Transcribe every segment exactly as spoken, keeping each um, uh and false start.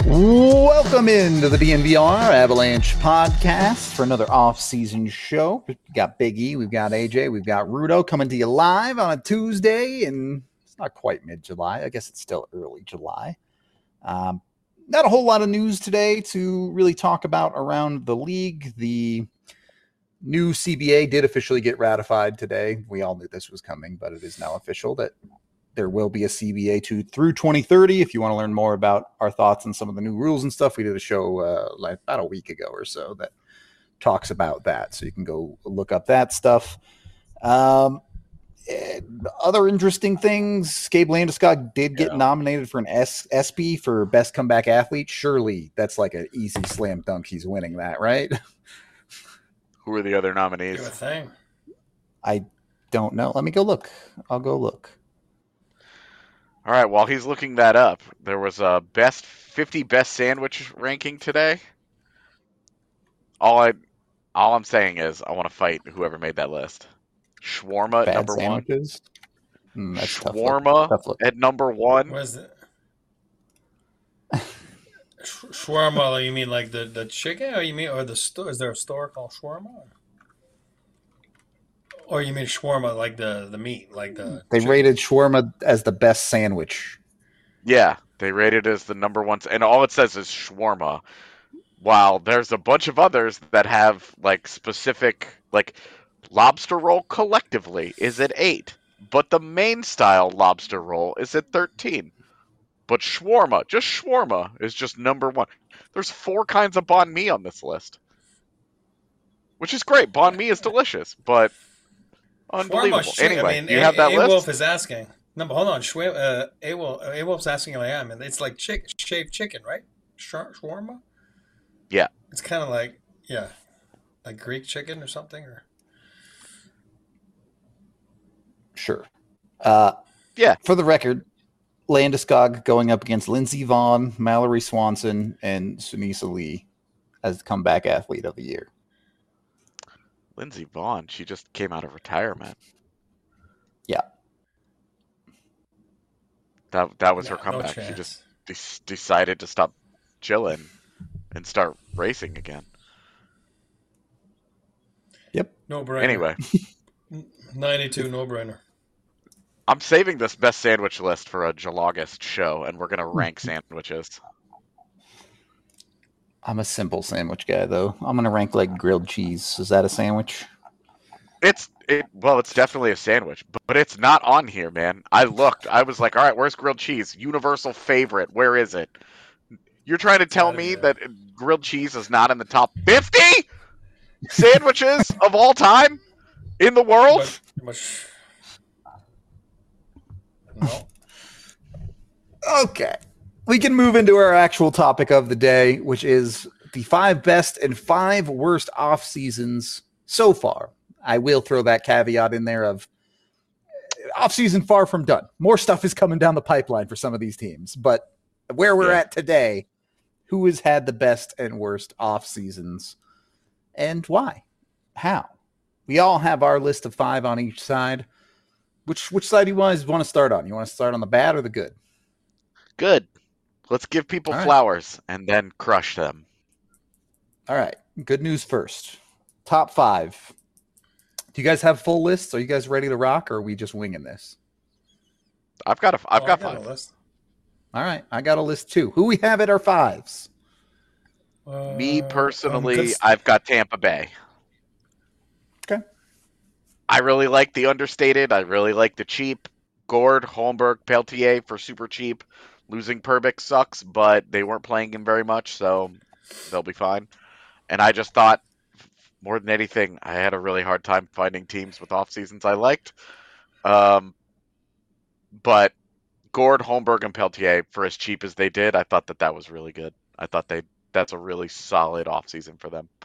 Welcome into the D N V R Avalanche podcast for another off-season show. We've got Big E, we've got A J, we've got Rudo coming to you live on a Tuesday, and it's not quite mid-July. I guess it's still early July. Um, not a whole lot of news today to really talk about around the league. The new C B A did officially get ratified today. We all knew this was coming, but it is now official that there will be a C B A two through twenty thirty. If you want to learn more about our thoughts on some of the new rules and stuff, we did a show uh, like about a week ago or so that talks about that. So you can go look up that stuff. Um, other interesting things, Gabe Landeskog did get yeah. nominated for an S- ESPY for Best Comeback Athlete. Surely that's like an easy slam dunk. He's winning that, right? Who are the other nominees? Do a thing. I don't know. Let me go look. I'll go look. All right, while he's looking that up, there was a best fifty best sandwich ranking today. All I, all I'm saying is I want to fight whoever made that list. Shawarma at Bad number sandwiches? one. Mm, that's Shawarma tough look. at number one. What is it? Sh- shawarma? You mean like the, the chicken, or you mean or the store? Is there a store called shawarma? Or you mean shawarma like the, the meat, like the They chicken? rated shawarma as the best sandwich. Yeah, they rated it as the number one, and all it says is shawarma. While there's a bunch of others that have like specific, like lobster roll collectively is at eight, but the main style lobster roll is at thirteen. But shawarma, just shawarma, is just number one. There's four kinds of banh mi on this list, which is great. Banh mi is delicious, but unbelievable. Shawarma, Anyway, I mean, you a- have that a- list? A-Wolf is asking. No, but hold on. Shwa- uh, A-Wolf, A-Wolf's asking like I am. It's like chick, shaved chicken, right? Shar- shawarma? Yeah. It's kind of like, yeah, like Greek chicken or something. Or Sure. Uh, yeah. For the record, Landeskog going up against Lindsey Vonn, Mallory Swanson, and Sunisa Lee as the comeback athlete of the year. Lindsey Vonn, she just came out of retirement. Yeah. That that was Yeah, her comeback. no she chance. just de- decided to stop chilling and start racing again. Yep. No brainer. Anyway, ninety-two, no brainer. I'm saving this best sandwich list for a July-August show, and we're going to rank sandwiches. I'm a simple sandwich guy, though. I'm going to rank like grilled cheese. Is that a sandwich? It's it well, it's definitely a sandwich, but, but it's not on here, man. I looked. I was like, all right, where's grilled cheese? Universal favorite. Where is it? You're trying to tell me that grilled cheese is not in the top fifty sandwiches of all time in the world? But, but, no. Okay. We can move into our actual topic of the day, which is the five best and five worst off seasons so far. I will throw that caveat in there of off season far from done. More stuff is coming down the pipeline for some of these teams, but where we're Yeah. at today, who has had the best and worst off seasons and why? How? We all have our list of five on each side. Which which side do you guys want to start on? You want to start on the bad or the good? Good. Let's give people All right. flowers and then crush them. All right. Good news first. Top five. Do you guys have full lists? Are you guys ready to rock, or are we just winging this? I've got a. I've Oh, got I got five. a list. All right. I got a list too. Who we have at our fives? Uh, Me um, personally, good st- I've got Tampa Bay. Okay. I really like the understated. I really like the cheap. Gord, Holmberg, Peltier for super cheap. Losing Perbix sucks, but they weren't playing him very much, so they'll be fine. And I just thought, more than anything, I had a really hard time finding teams with off seasons I liked. Um, but Gord, Holmberg, and Peltier, for as cheap as they did, I thought that that was really good. I thought they that's a really solid off season for them.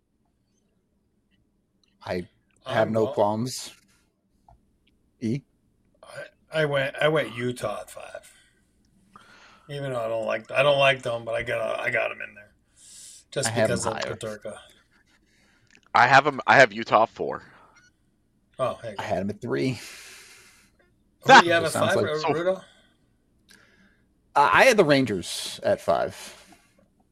I have I'm no well- qualms. E? I, I went. I went Utah at five. Even though I don't like. I don't like them, but I got. I got them in there. Just I have because them of higher. Peterka. I have them. I have Utah four. Oh, hey. I had him at three. Who do you have at Sounds five, like- Rudo? Uh, I had the Rangers at five.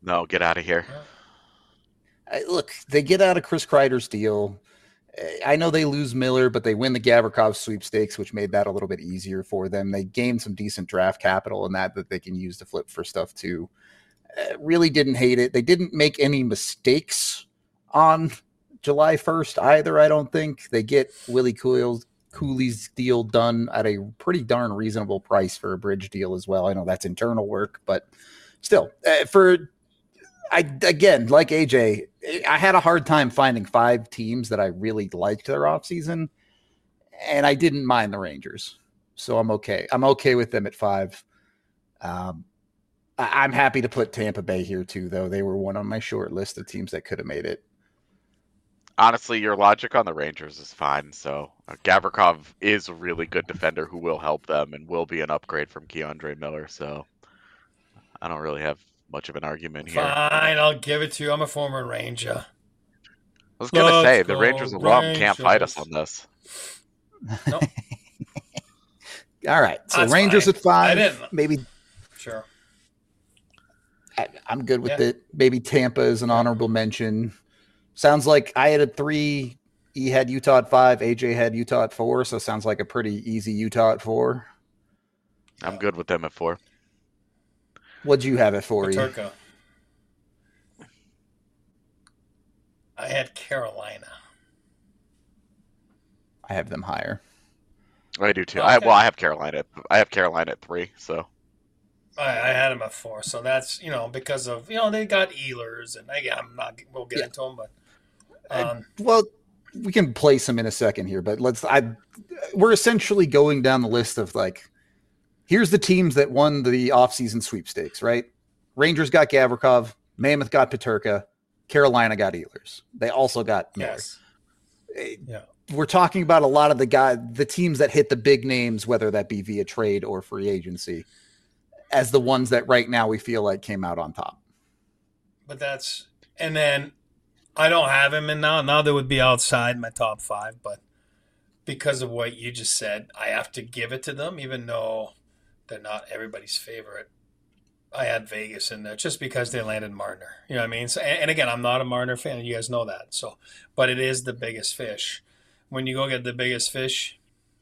No, get out of here. I, look, they get out of Chris Kreider's deal. I know they lose Miller, but they win the Gavrikov sweepstakes, which made that a little bit easier for them. They gained some decent draft capital in that that they can use to flip for stuff too. Uh, really didn't hate it. They didn't make any mistakes on July first either, I don't think. They get Willie Cooley's, Cooley's deal done at a pretty darn reasonable price for a bridge deal as well. I know that's internal work, but still, uh, for I again, like A J, I had a hard time finding five teams that I really liked their offseason, and I didn't mind the Rangers. So I'm okay. I'm okay with them at five. Um, I, I'm happy to put Tampa Bay here too, though. They were one on my short list of teams that could have made it. Honestly, your logic on the Rangers is fine. So uh, Gavrikov is a really good defender who will help them and will be an upgrade from Keandre Miller. So I don't really have much of an argument here. Fine, I'll give it to you. I'm a former Ranger. I was going to say, the go Rangers alum can't fight us Rangers. on this. Nope. All right. So That's Rangers fine. at five. I didn't- Maybe Sure. I, I'm good with Yeah. it. Maybe Tampa is an honorable mention. Sounds like I had a three. E had Utah at five. A J had Utah at four. So sounds like a pretty easy Utah at four. I'm good with them at four. What'd you have it for? E? Paterka. I had Carolina. I have them higher. I do too. I, Okay. well, I have Carolina. At, I have Carolina at three. So I, I had him at four, so that's you know because of you know they got Ehlers and again I'm not we'll get Yeah. into them, but um, Well, we can place them in a second here, but let's. I we're essentially going down the list of like, here's the teams that won the offseason sweepstakes, right? Rangers got Gavrikov, Mammoth got Paterka, Carolina got Ehlers. They also got Miller. yes, yeah, We're talking about a lot of the guy, the teams that hit the big names, whether that be via trade or free agency, as the ones that right now we feel like came out on top. but that's and then I don't have him in now. Now they would be outside my top five, but because of what you just said, I have to give it to them, even though they're not everybody's favorite. I had Vegas in there just because they landed Marner. You know what I mean? So, and, and again, I'm not a Marner fan. You guys know that. So, but it is the biggest fish. When you go get the biggest fish,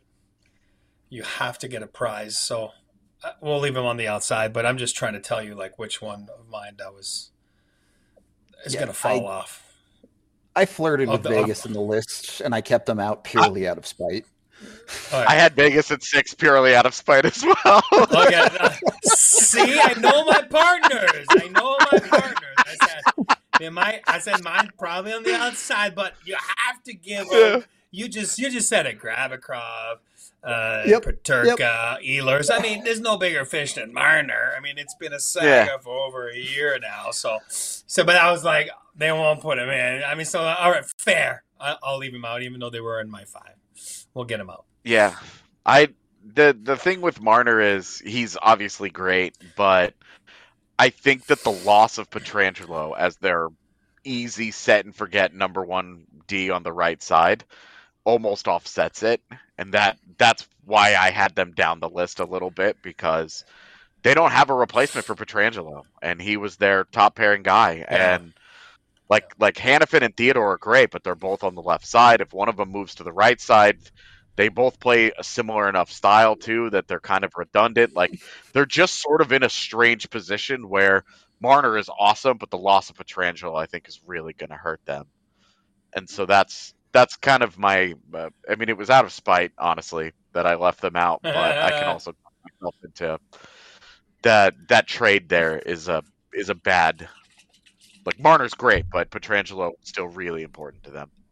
you have to get a prize. So uh, we'll leave him on the outside. But I'm just trying to tell you, like, which one of mine that was is Yeah, going to fall I- off. I flirted Oh, with the- Vegas in the list, and I kept them out purely out of spite. All I right. had Vegas at six purely out of spite as well. Okay. uh, see, I know my partners. I know my partners. I said, they might. I said mine probably on the outside, but you have to give them. You just you just said it. Gravikrov, uh, Yep, Paterka, Ehlers. I mean, there's no bigger fish than Marner. I mean, it's been a saga Yeah. for over a year now. So, so, but I was like, they won't put him in. I mean, so all right, fair. I, I'll leave him out, even though they were in my five. We'll get him out. Yeah, I the the thing with Marner is he's obviously great, but I think that the loss of Pietrangelo as their easy set and forget number one D on the right side almost offsets it, and that that's why I had them down the list a little bit because they don't have a replacement for Pietrangelo, and he was their top pairing guy, Yeah. and. Like like Hannafin and Theodore are great, but they're both on the left side. If one of them moves to the right side, they both play a similar enough style too that they're kind of redundant. Like they're just sort of in a strange position where Marner is awesome, but the loss of Pietrangelo I think is really going to hurt them. And so that's that's kind of my. Uh, I mean, it was out of spite, honestly, that I left them out. But I can also talk myself into that that trade there is a is a bad. Like Marner's great, but Pietrangelo is still really important to them.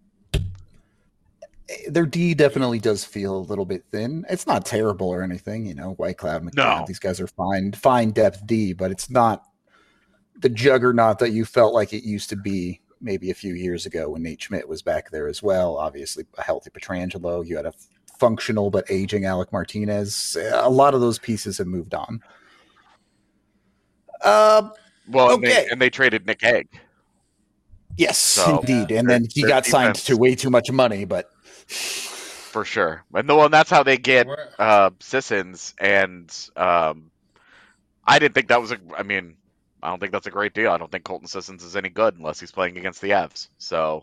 Their D definitely does feel a little bit thin. It's not terrible or anything, you know. White Cloud, McDonald, No. these guys are fine, fine depth D, but it's not the juggernaut that you felt like it used to be maybe a few years ago when Nate Schmidt was back there as well. Obviously, a healthy Pietrangelo. You had a functional but aging Alec Martinez. A lot of those pieces have moved on. Uh, Well, and, Okay. they, and they traded Nick Hague. yes, So- indeed. And Their- then he their got signed defense- to way too much money, but For sure. And, the, and that's how they get Where- uh, Sissons. And um, I didn't think that was a. I mean, I don't think that's a great deal. I don't think Colton Sissons is any good unless he's playing against the Avs. So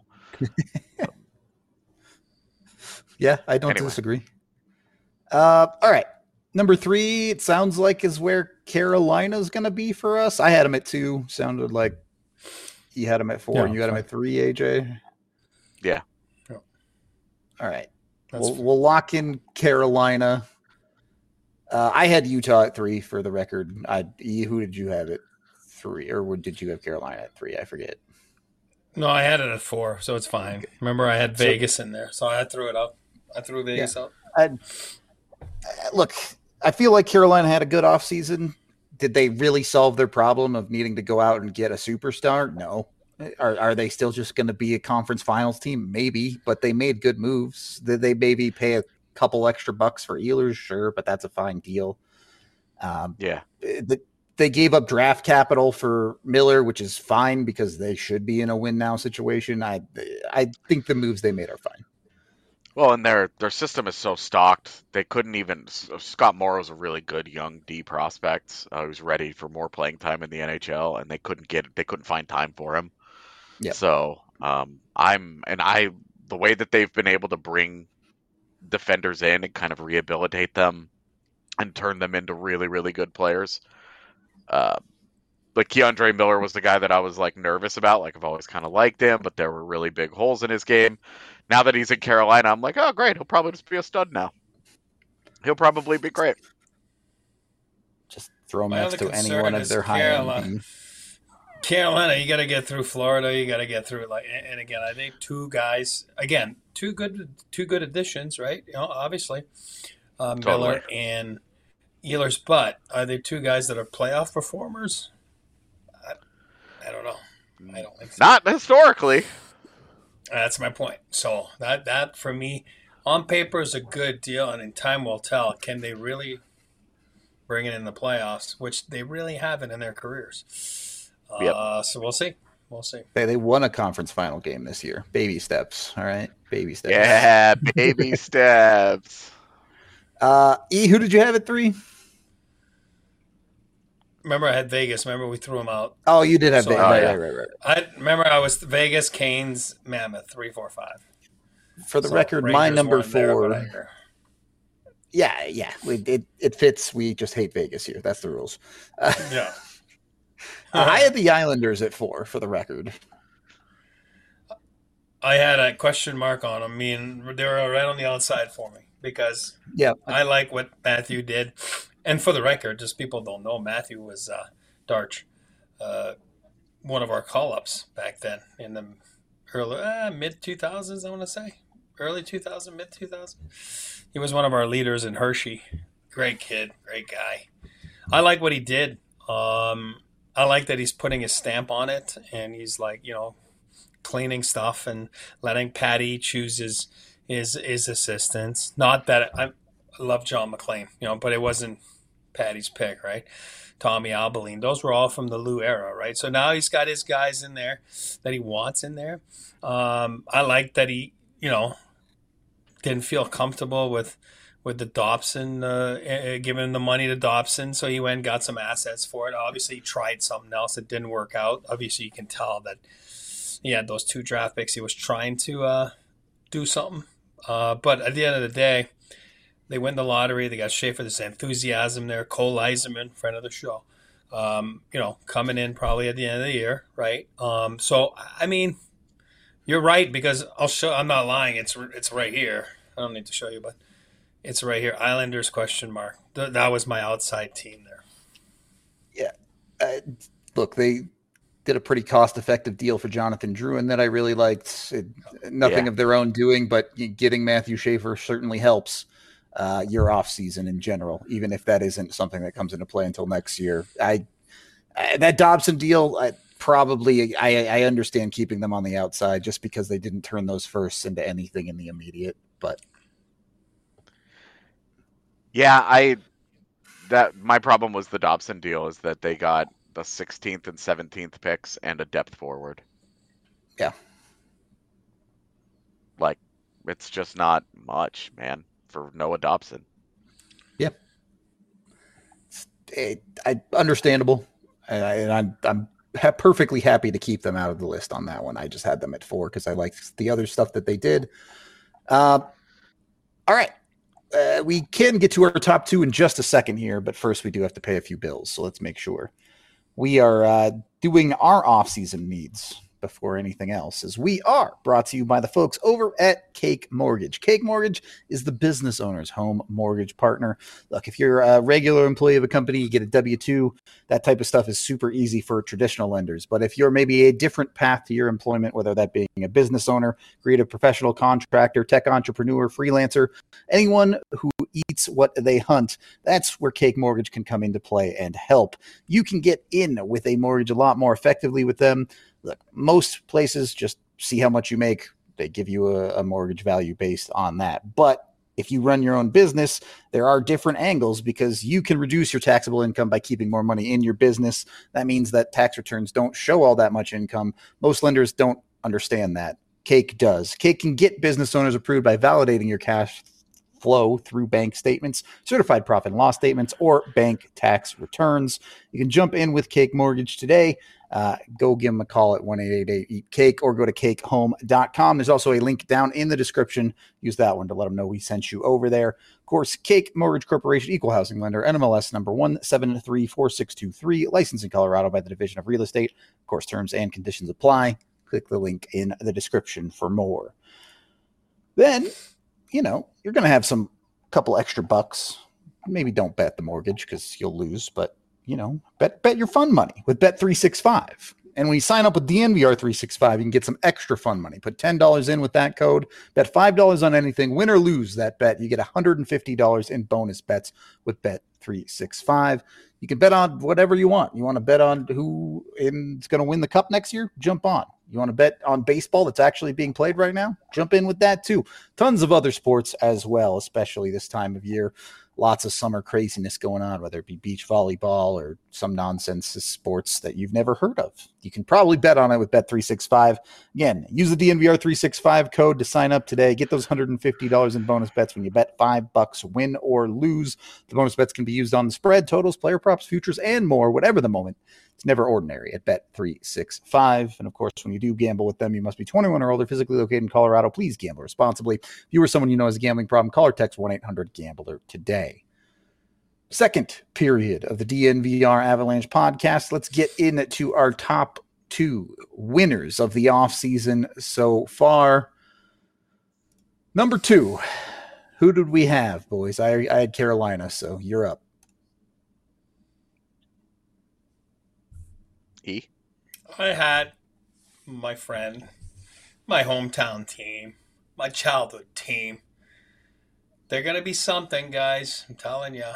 yeah, I don't anyway. disagree. Uh, all right. Number three, it sounds like is where Carolina's going to be for us. I had him at two. Sounded like you had him at four, Yeah, and you had him fine. at three, A J. Yeah. Yeah. All right. That's We'll, we'll lock in Carolina. Uh, I had Utah at three for the record. I, who did you have at three, or what- did you have Carolina at three? I forget. No, I had it at four, so it's fine. Remember, I had So- Vegas in there, so I threw it up. I threw Vegas up. I, look, I feel like Carolina had a good offseason. Did they really solve their problem of needing to go out and get a superstar? No. Are are they still just going to be a conference finals team? Maybe, but they made good moves. Did they maybe pay a couple extra bucks for Ehlers? Sure, but that's a fine deal. Um, Yeah. the, they gave up draft capital for Miller, which is fine because they should be in a win now situation. I I think the moves they made are fine. Well, and their their system is so stocked, they couldn't even. Scott Morrow's a really good young D prospect uh, who's ready for more playing time in the N H L, and they couldn't get they couldn't find time for him. Yep. So um, I'm and I the way that they've been able to bring defenders in and kind of rehabilitate them and turn them into really really good players. Uh, like Keandre Miller was the guy that I was like nervous about. Like I've always kind of liked him, but there were really big holes in his game. Now that he's in Carolina, I'm like, oh great, he'll probably just be a stud now. He'll probably be great. Just throw him My next other to any concern one of is their high Carolina. end. Carolina, you got to get through Florida. You got to get through like, and again, I think two guys, again, two good, two good additions, right? You know, obviously, uh, Miller Totally. and Ehlers. But are they two guys that are playoff performers? I, I don't know. I don't think so. Not historically. That's my point. So that that for me, on paper, is a good deal, and in time will tell. Can they really bring it in the playoffs, which they really haven't in their careers? Yep. Uh, so we'll see. We'll see. They they won a conference final game this year. Baby steps. All right. Baby steps. Yeah, baby steps. Uh, E, who did you have at three? Remember, I had Vegas. Remember, we threw them out. Oh, you did have So- Vegas. Oh, right, yeah. right, right, right. I remember I was Vegas, Canes, Mammoth, three, four, five. For the So record, my Rangers number weren't there, four. but I agree. yeah, yeah. We, it, it fits. We just hate Vegas here. That's the rules. Uh, Yeah. I had the Islanders at four, for the record. I had a question mark on them. I mean, they were right on the outside for me because Yeah. I like what Matthew did. And for the record, just people don't know, Matthew was uh, Darch, uh, one of our call-ups back then in the early uh, mid two thousands, I want to say. Early two thousand, mid two thousand. He was one of our leaders in Hershey. Great kid, great guy. I like what he did. Um, I like that he's putting his stamp on it, and he's like, you know, cleaning stuff and letting Patty choose his his, his assistants. Not that I, I love John McClain, you know, but it wasn't Patty's pick, right? Tommy Albaline. Those were all from the Lou era, right? So now he's got his guys in there that he wants in there. Um, I like that he, you know, didn't feel comfortable with with the Dobson, uh, uh, giving the money to Dobson, so he went and got some assets for it. Obviously, he tried something else that didn't work out. Obviously, you can tell that he had those two draft picks. He was trying to uh, do something. Uh, but at the end of the day, they win the lottery. They got Schaefer. There's enthusiasm there. Cole Eiserman, friend of the show, um, you know, coming in probably at the end of the year, right? Um, so, I mean, you're right because I'll show. I'm not lying. It's it's right here. I don't need to show you, but it's right here. Islanders question mark. Th- that was my outside team there. Uh, look, they did a pretty cost-effective deal for Jonathan Drouin that I really liked. It, nothing Yeah. of their own doing, but getting Matthew Schaefer certainly helps uh, your off-season in general, even if that isn't something that comes into play until next year. I, I that Dobson deal, I, probably I, I understand keeping them on the outside just because they didn't turn those firsts into anything in the immediate. But Yeah, I that my problem was the Dobson deal is that they got the sixteenth and seventeenth picks and a depth forward. Yeah. Like it's just not much, man, for Noah Dobson. it, I understandable. and, I, and I'm I'm ha- perfectly happy to keep them out of the list on that one. I just had them at four because I liked the other stuff that they did. Uh, all right. Uh, we can get to our top two in just a second here, but first we do have to pay a few bills, so let's make sure. We are uh, doing our off-season needs before anything else, as we are brought to you by the folks over at Cake Mortgage. Cake Mortgage is the business owner's home mortgage partner. Look, if you're a regular employee of a company, you get a W two, that type of stuff is super easy for traditional lenders. But if you're maybe a different path to your employment, whether that being a business owner, creative professional, contractor, tech entrepreneur, freelancer, anyone who eats what they hunt, that's where Cake Mortgage can come into play and help. You can get in with a mortgage a lot more effectively with them. Look, most places just see how much you make. They give you a, a mortgage value based on that. But if you run your own business, there are different angles because you can reduce your taxable income by keeping more money in your business. That means that tax returns don't show all that much income. Most lenders don't understand that. Cake does. Cake can get business owners approved by validating your cash flow through bank statements, certified profit and loss statements, or bank tax returns. You can jump in with Cake Mortgage today. Uh, go give them a call at one eight eight eight eat cake or go to cake home dot com. There's also a link down in the description. Use that one to let them know we sent you over there. Of course, Cake Mortgage Corporation, equal housing lender, N M L S number one seven three four six two three, licensed in Colorado by the Division of Real Estate. Of course, terms and conditions apply. Click the link in the description for more. Then, you know, you're going to have some couple extra bucks. Maybe don't bet the mortgage because you'll lose, but you know, bet bet your fun money with Bet three sixty-five. And when you sign up with D N V R three sixty-five, you can get some extra fun money. Put ten dollars in with that code, bet five dollars on anything, win or lose that bet. You get one hundred fifty dollars in bonus bets with Bet three sixty-five. You can bet on whatever you want. You want to bet on who is going to win the cup next year? Jump on. You want to bet on baseball that's actually being played right now? Jump in with that too. Tons of other sports as well, especially this time of year. Lots of summer craziness going on, whether it be beach volleyball or some nonsense sports that you've never heard of. You can probably bet on it with Bet three sixty-five. Again, use the D N V R three sixty-five code to sign up today. Get those one hundred fifty dollars in bonus bets when you bet five bucks, win or lose. The bonus bets can be used on the spread, totals, player props, futures, and more, whatever the moment. It's never ordinary at Bet three sixty-five. And of course, when you do gamble with them, you must be twenty-one or older, physically located in Colorado. Please gamble responsibly. If you or someone you know has a gambling problem, call or text one eight hundred gambler today. Second period of the D N V R Avalanche podcast. Let's get into our top two winners of the offseason so far. Number two, who did we have, boys? I, I had Carolina, so you're up. E. I had my friend, my hometown team, my childhood team. They're going to be something, guys. I'm telling you.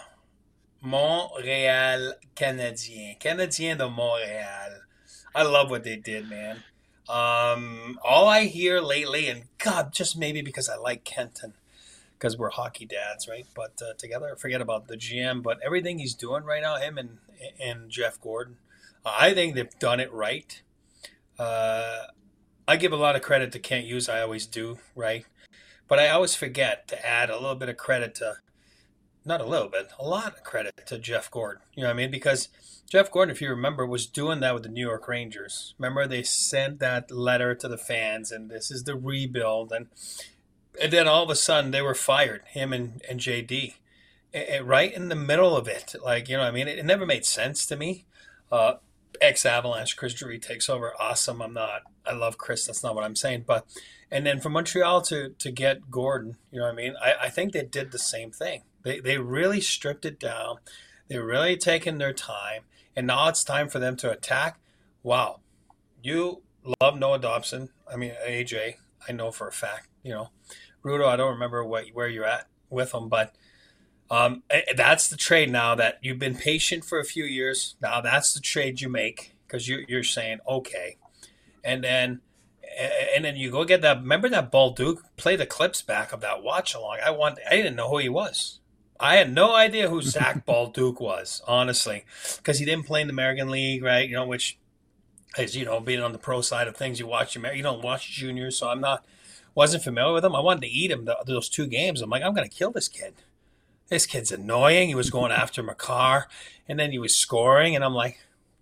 Montréal Canadiens. Canadiens de Montréal. I love what they did, man. Um, all I hear lately, and God, just maybe because I like Kenton, because we're hockey dads, right? But uh, together, forget about the G M. But everything he's doing right now, him and, and Jeff Gordon, I think they've done it right. Uh, I give a lot of credit to Kent Hughes. I always do, right? But I always forget to add a little bit of credit to, not a little bit, a lot of credit to Jeff Gordon. You know what I mean? Because Jeff Gordon, if you remember, was doing that with the New York Rangers. Remember, they sent that letter to the fans, and this is the rebuild. And and then all of a sudden, they were fired, him and, and J D, and right in the middle of it. Like, you know what I mean? It, it never made sense to me. Uh, Ex-Avalanche, Chris Drury takes over. Awesome. I'm not, I love Chris. That's not what I'm saying. But, and then from Montreal to, to get Gordon, you know what I mean? I, I think they did the same thing. They they really stripped it down. They're really taking their time. And now it's time for them to attack. Wow. You love Noah Dobson. I mean, A J, I know for a fact, you know. Rudo, I don't remember what where you're at with him, but um, that's the trade now that you've been patient for a few years. Now that's the trade you make because you, you're saying, okay. And then and then you go get that. Remember that Balduke? Play the clips back of that watch along. I want. I didn't know who he was. I had no idea who Zach Balduke was, honestly, because he didn't play in the American League, right? You know, which is, you know, being on the pro side of things, you watch your, you don't watch juniors, so I'm not, wasn't familiar with him. I wanted to eat him the, those two games. I'm like, I'm going to kill this kid. This kid's annoying. He was going after Makar, and then he was scoring, and I'm like,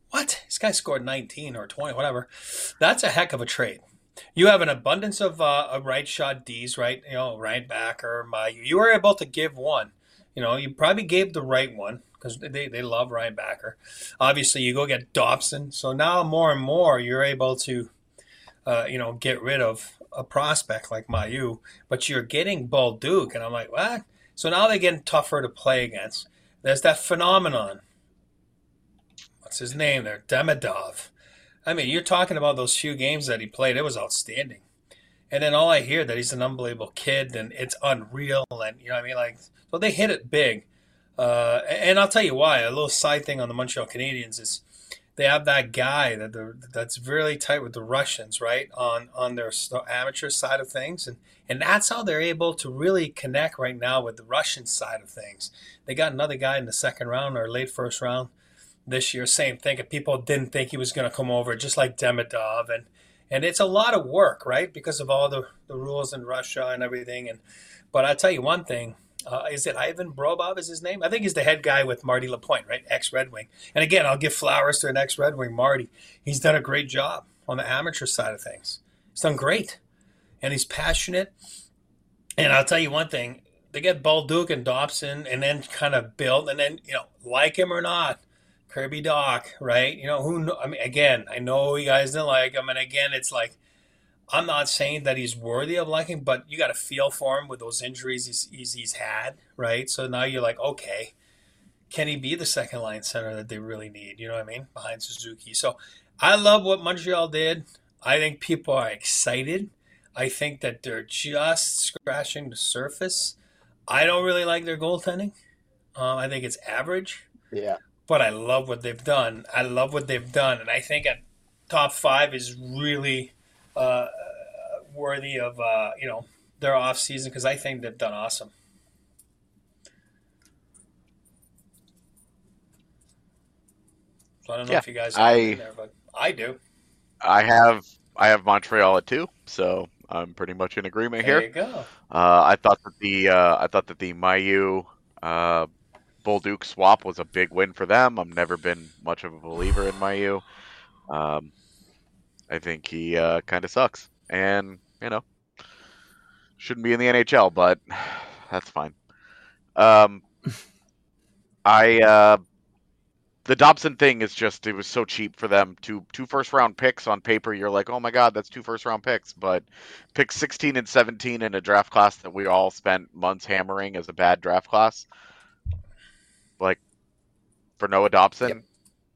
what? This guy scored nineteen or twenty, whatever. That's a heck of a trade. You have an abundance of uh, of right shot Ds, right? You know, right backer, my you were able to give one. You know, you probably gave the right one because they, they love Ryan Backer. Obviously, you go get Dobson. So now more and more you're able to, uh, you know, get rid of a prospect like Mayu, but you're getting Bolduc. And I'm like, what? So now they're getting tougher to play against. There's that phenomenon. What's his name there? Demidov. I mean, you're talking about those few games that he played. It was outstanding. And then all I hear that he's an unbelievable kid and it's unreal. And, you know what I mean? Like, so they hit it big. Uh, and I'll tell you why. A little side thing on the Montreal Canadiens is they have that guy that that's really tight with the Russians, right, on on their amateur side of things. And, and that's how they're able to really connect right now with the Russian side of things. They got another guy in the second round or late first round this year, same thing. And people didn't think he was going to come over, just like Demidov. And And it's a lot of work, right, because of all the, the rules in Russia and everything. And But I'll tell you one thing. Uh, is it Ivan Brobov is his name? I think he's the head guy with Marty Lapointe, right, ex-Red Wing. And again, I'll give flowers to an ex-Red Wing, Marty. He's done a great job on the amateur side of things. He's done great. And he's passionate. And I'll tell you one thing. They get Bolduc and Dobson and then kind of build. And then, you know, like him or not, Kirby Doc, right? You know, who, I mean, again, I know you guys didn't like him. And again, it's like, I'm not saying that he's worthy of liking, but you got to feel for him with those injuries he's, he's, he's had, right? So now you're like, okay, can he be the second line center that they really need? You know what I mean? Behind Suzuki. So I love what Montreal did. I think people are excited. I think that they're just scratching the surface. I don't really like their goaltending. Um, I think it's average. Yeah. But I love what they've done. I love what they've done. And I think at top five is really uh, worthy of, uh, you know, their off season because I think they've done awesome. So I don't know Yeah, if you guys I- have in there, but I do. I have I have Montreal at two, so I'm pretty much in agreement There here. you go. Uh, I thought that the uh, I thought that the Mayu uh, Bolduc swap was a big win for them. I've never been much of a believer in Mayu. Um, I think he uh, kind of sucks, and you know, shouldn't be in the N H L, but that's fine. Um, I uh, the Dobson thing is just it was so cheap for them. Two two first round picks on paper, you're like, oh my god, that's two first round picks, but pick sixteen and seventeen in a draft class that we all spent months hammering as a bad draft class. Like for Noah Dobson. Yep.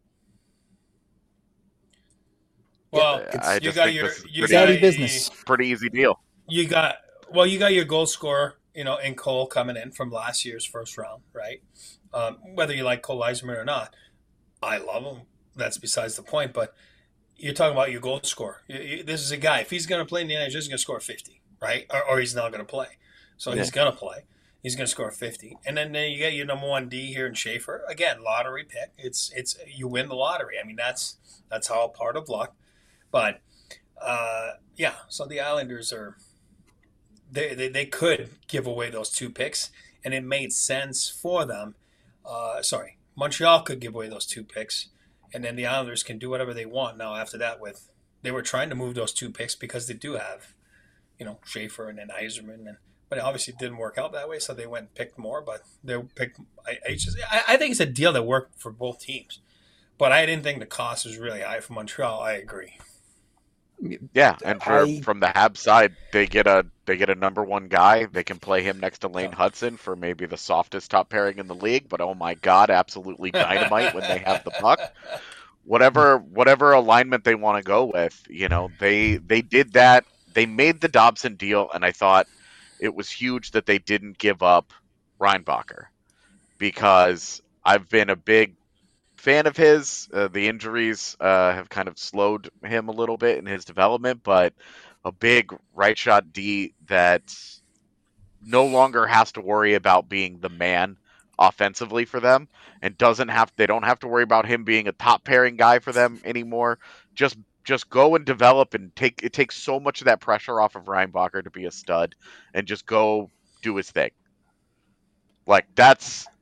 Well, Yeah, I you just got think your this is you pretty- got Daddy business. Pretty easy deal. You got well, you got your goal scorer, you know, in Cole coming in from last year's first round, right? Um, whether you like Cole Eiserman or not, I love him. That's besides the point. But you're talking about your goal scorer. You- you- This is a guy. If he's going to play in the N H L, he's going to score fifty, right? Or, or he's not going to play. So he's Yeah. going to play. He's going to score fifty, and then, then you get your number one D here in Schaefer. Again, lottery pick. It's it's you win the lottery. I mean, that's that's all part of luck. But uh, yeah, so the Islanders are they, they they could give away those two picks, and it made sense for them. Uh, sorry, Montreal could give away those two picks, and then the Islanders can do whatever they want. Now after that, with they were trying to move those two picks because they do have, you know, Schaefer and then Eiserman, and but it obviously didn't work out that way, so they went and picked more. But they picked. I I, just, I I think it's a deal that worked for both teams, but I didn't think the cost was really high for Montreal. I agree. Yeah, and for I- from the Habs side, they get a they get a number one guy. They can play him next to Lane Hudson for maybe the softest top pairing in the league. But oh my god, absolutely dynamite when they have the puck. Whatever whatever alignment they want to go with, you know, they they did that. They made the Dobson deal, and I thought it was huge that they didn't give up Reinbacher because I've been a big fan of his. Uh, the injuries uh, have kind of slowed him a little bit in his development, but a big right shot D that no longer has to worry about being the man offensively for them and doesn't have they don't have to worry about him being a top pairing guy for them anymore. Just just go and develop and take it takes so much of that pressure off of Reinbacher to be a stud and just go do his thing. Like that's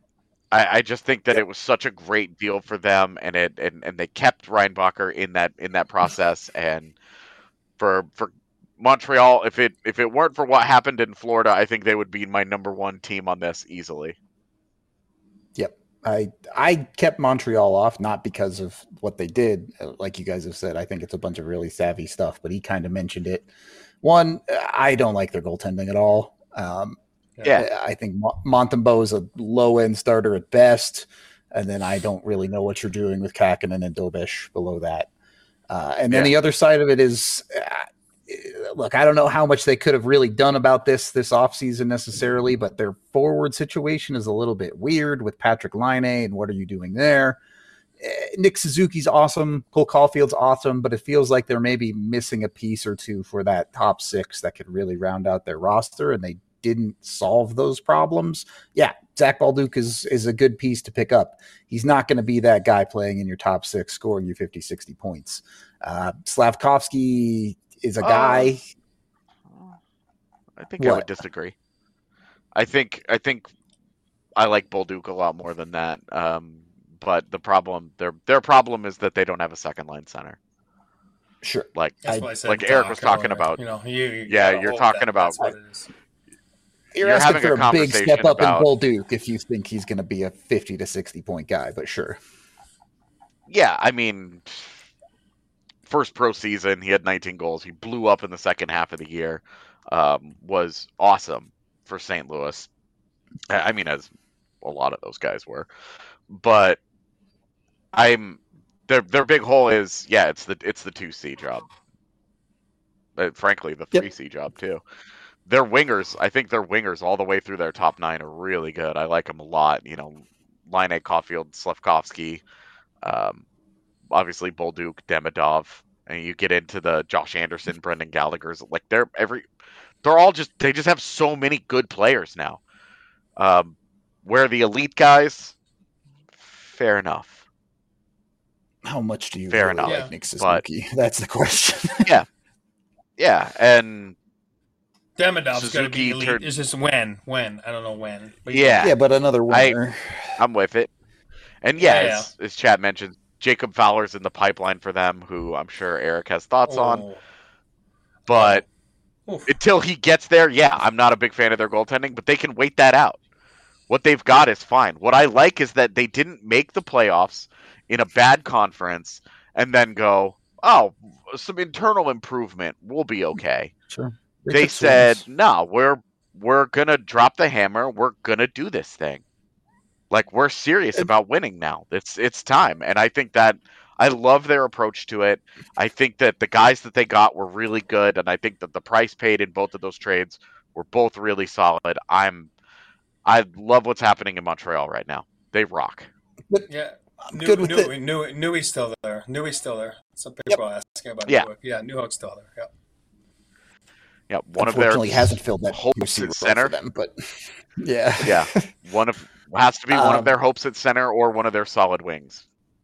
I, I just think that Yep. it was such a great deal for them, and it and, and they kept Reinbacher in that in that process. And for for Montreal, if it if it weren't for what happened in Florida, I think they would be my number one team on this easily. Yep. I I kept Montreal off, not because of what they did. Like you guys have said, I think it's a bunch of really savvy stuff, but he kind of mentioned it. One, I don't like their goaltending at all. Um, Yeah. I think Montembeault is a low-end starter at best, and then I don't really know what you're doing with Kakinen and Dobish below that. Uh, and then Yeah. the other side of it is, uh, look, I don't know how much they could have really done about this this offseason necessarily, but their forward situation is a little bit weird with Patrick Laine, and what are you doing there? Nick Suzuki's awesome. Cole Caulfield's awesome, but it feels like they're maybe missing a piece or two for that top six that could really round out their roster, and they didn't solve those problems. Yeah, Zach Balduke is is a good piece to pick up. He's not going to be that guy playing in your top six, scoring you fifty, sixty points. Uh, Slavkovsky is a guy. Uh, I think What? I would disagree. I think I think I like Bolduc a lot more than that. Um, but the problem their their problem is that they don't have a second line center. Sure. Like That's I- what I said. like to Eric Doc was talking earlier. about. You know, you, you Yeah, gotta you're hope talking that about- that's what it is. You're, You're asking having for a a, big step conversation up about- in Bolduc if you think he's going to be a fifty to sixty point guy, but sure. Yeah, I mean, first pro season, he had nineteen goals. He blew up in the second half of the year. Um, was awesome for Saint Louis. I I mean, as a lot of those guys were. But I'm their their big hole is yeah, it's the it's the two C job. But frankly, the Yep. three C job too. Their wingers, I think their wingers all the way through their top nine are really good. I like them a lot. You know, Laine, Caulfield, Slavkovsky, um, obviously Bolduc, Demidov, and you get into the Josh Anderson, Brendan Gallagher's. Like they're every, they're all just they just have so many good players now. Um, where the elite guys, fair enough. How much do you Fair really enough, like Nick but- Suzuki? That's the question. Yeah, and Demidov's going to Suzuki be elite. turned- It's just when, when I don't know when. But yeah, yeah, but another I- winner. I'm with it. And yeah, Yeah, as, as Chad mentioned, Jacob Fowler's in the pipeline for them, who I'm sure Eric has thoughts on. Oh. But Oof. until he gets there, yeah, I'm not a big fan of their goaltending, but they can wait that out. What they've got is fine. What I like is that they didn't make the playoffs in a bad conference and then go, oh, some internal improvement. We'll be okay. Sure. They took said, swings. no, we're we're gonna drop the hammer. We're gonna do this thing. Like we're serious And- about winning now. It's it's time, and I think that I love their approach to it. I think that the guys that they got were really good, and I think that the price paid in both of those trades were both really solid. I'm I love what's happening in Montreal right now. They rock. Yeah. I'm New, good with New, it. New, Newey's still there. Newey's still there. Some Yep. people asking about Yeah. Newhook. Yeah, Newhook's still there. Yeah. Yeah, one of their Unfortunately, hasn't filled that hopes two C at role center. for them, but yeah, Yeah, one of has to be one Um, of their hopes at center or one of their solid wings.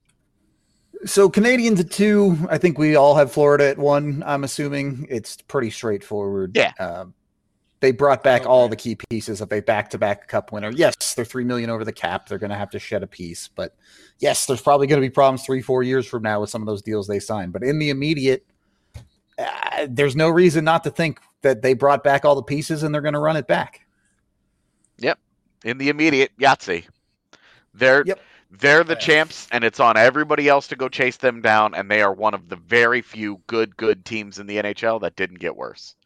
So Canadians at two. I think we all have Florida at one. I'm assuming it's pretty straightforward. Yeah. Um, they brought back Okay. all the key pieces of a back-to-back Cup winner. Yes, they're three million over the cap. They're going to have to shed a piece, but yes, there's probably going to be problems three, four years from now with some of those deals they signed. But in the immediate, uh, there's no reason not to think that they brought back all the pieces and they're going to run it back. In the immediate, Yahtzee. They're Yep. they're the Yeah. champs, and it's on everybody else to go chase them down. And they are one of the very few good, good teams in the N H L that didn't get worse.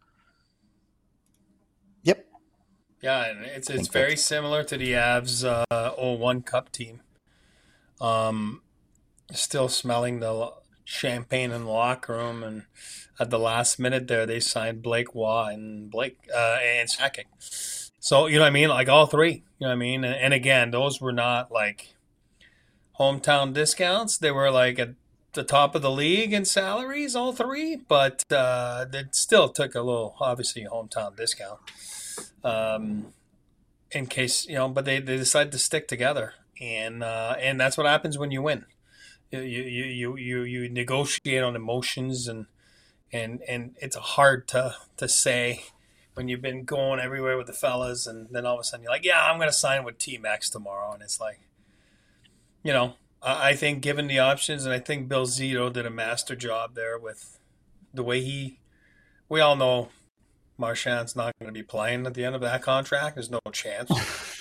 Yep. Yeah, and it's it's think very that's- similar to the Avs uh, oh one Cup team. Um, still smelling the lo- champagne in the locker room, and at the last minute there, they signed Blake Waugh and Blake uh, and Sakic. So you know what I mean, like all three. You know what I mean, and, and again, those were not like hometown discounts. They were like at the top of the league in salaries, all three, but uh, it still took a little, obviously, hometown discount. Um, in case, you know, but they, they decided to stick together. And uh, and that's what happens when you win. You you you you, you negotiate on emotions, and and and it's hard to to say when you've been going everywhere with the fellas, and then all of a sudden you're like, yeah, I'm going to sign with T-Max tomorrow. And it's like, you know, I, I think given the options, and I think Bill Zito did a master job there with the way he. We all know Marchand's not going to be playing at the end of that contract. There's no chance.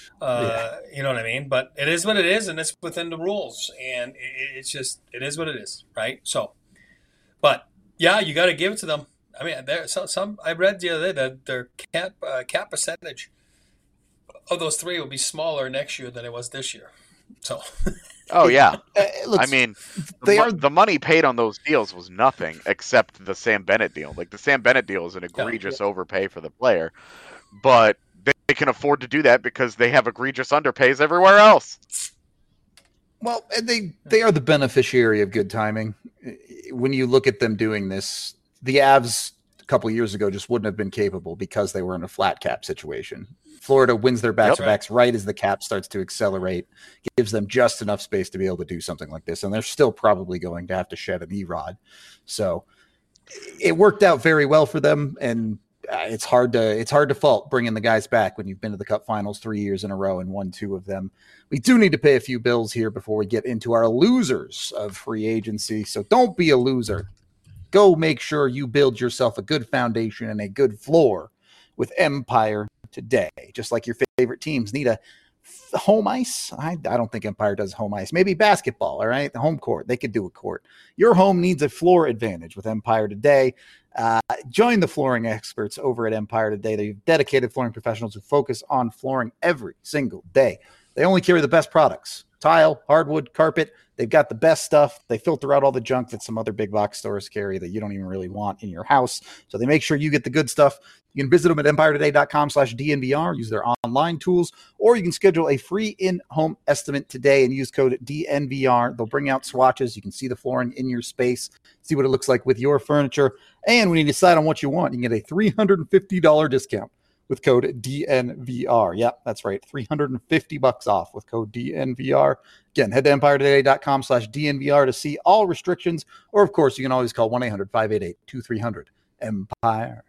Uh, yeah. You know what I mean? But it is what it is, and it's within the rules, and it, it's just it is what it is, right? So, but yeah, you got to give it to them. I mean, there some, some I read the other day that their cap uh, cap percentage of those three will be smaller next year than it was this year. So, oh yeah, looks, I mean, they the, are the money paid on those deals was nothing except the Sam Bennett deal. Like the Sam Bennett deal is an egregious yeah, yeah. overpay for the player, but they, they can afford to do that because they have egregious underpays everywhere else. Well, they they are the beneficiary of good timing. When you look at them doing this, the Avs a couple of years ago just wouldn't have been capable because they were in a flat cap situation. Florida wins their back-to-backs yep. right as the cap starts to accelerate, gives them just enough space to be able to do something like this, and they're still probably going to have to shed an E-Rod. So it worked out very well for them, and it's hard to it's hard to fault bringing the guys back when you've been to the Cup Finals three years in a row and won two of them. We do need to pay a few bills here before we get into our losers of free agency, so don't be a loser. Go make sure you build yourself a good foundation and a good floor with Empire today. Just like your favorite teams need a home ice. I, I don't think Empire does home ice. Maybe basketball, all right? The home court. They could do a court. Your home needs a floor advantage with Empire today. Uh, join the flooring experts over at Empire today. They're dedicated flooring professionals who focus on flooring every single day. They only carry the best products. Tile, hardwood, carpet. They've got the best stuff. They filter out all the junk that some other big box stores carry that you don't even really want in your house. So they make sure you get the good stuff. You can visit them at empire today dot com slash D N V R, use their online tools, or you can schedule a free in-home estimate today and use code D N V R. They'll bring out swatches. You can see the flooring in your space, see what it looks like with your furniture. And when you decide on what you want, you can get a three hundred fifty dollars discount with code D N V R. Yep, that's right. three hundred fifty bucks off with code D N V R. Again, head to empire today dot com slash D N V R to see all restrictions. Or, of course, you can always call one eight hundred five eight eight two three zero zero Empire.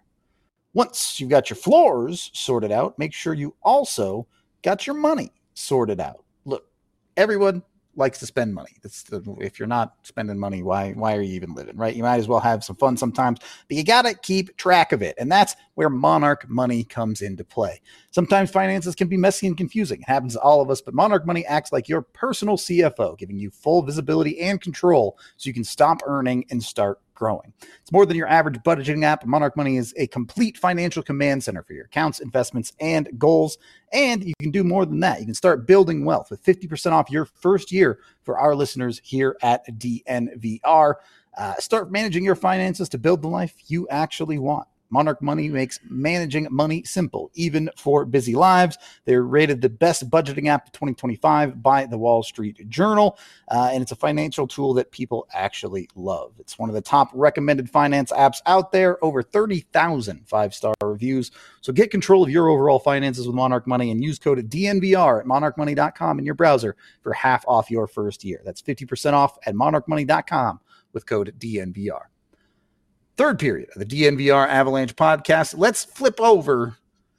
Once you've got your floors sorted out, make sure you also got your money sorted out. Look, everyone likes to spend money. That's the, if you're not spending money, why why are you even living, right? You might as well have some fun sometimes, but you got to keep track of it. And that's where Monarch Money comes into play. Sometimes finances can be messy and confusing. It happens to all of us, but Monarch Money acts like your personal C F O, giving you full visibility and control so you can stop earning and start growing. It's more than your average budgeting app. Monarch Money is a complete financial command center for your accounts, investments, and goals. And you can do more than that. You can start building wealth with fifty percent off your first year for our listeners here at D N V R. Uh, start managing your finances to build the life you actually want. Monarch Money makes managing money simple, even for busy lives. They're rated the best budgeting app of twenty twenty-five by the Wall Street Journal, uh, and it's a financial tool that people actually love. It's one of the top recommended finance apps out there, over thirty thousand five-star reviews. So get control of your overall finances with Monarch Money and use code D N V R at monarch money dot com in your browser for half off your first year. That's fifty percent off at monarch money dot com with code D N V R. Third period of the D N V R Avalanche podcast. Let's flip over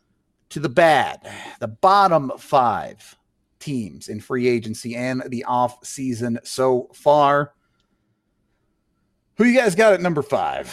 to the bad, the bottom five teams in free agency and the off season so far. Who you guys got at number five?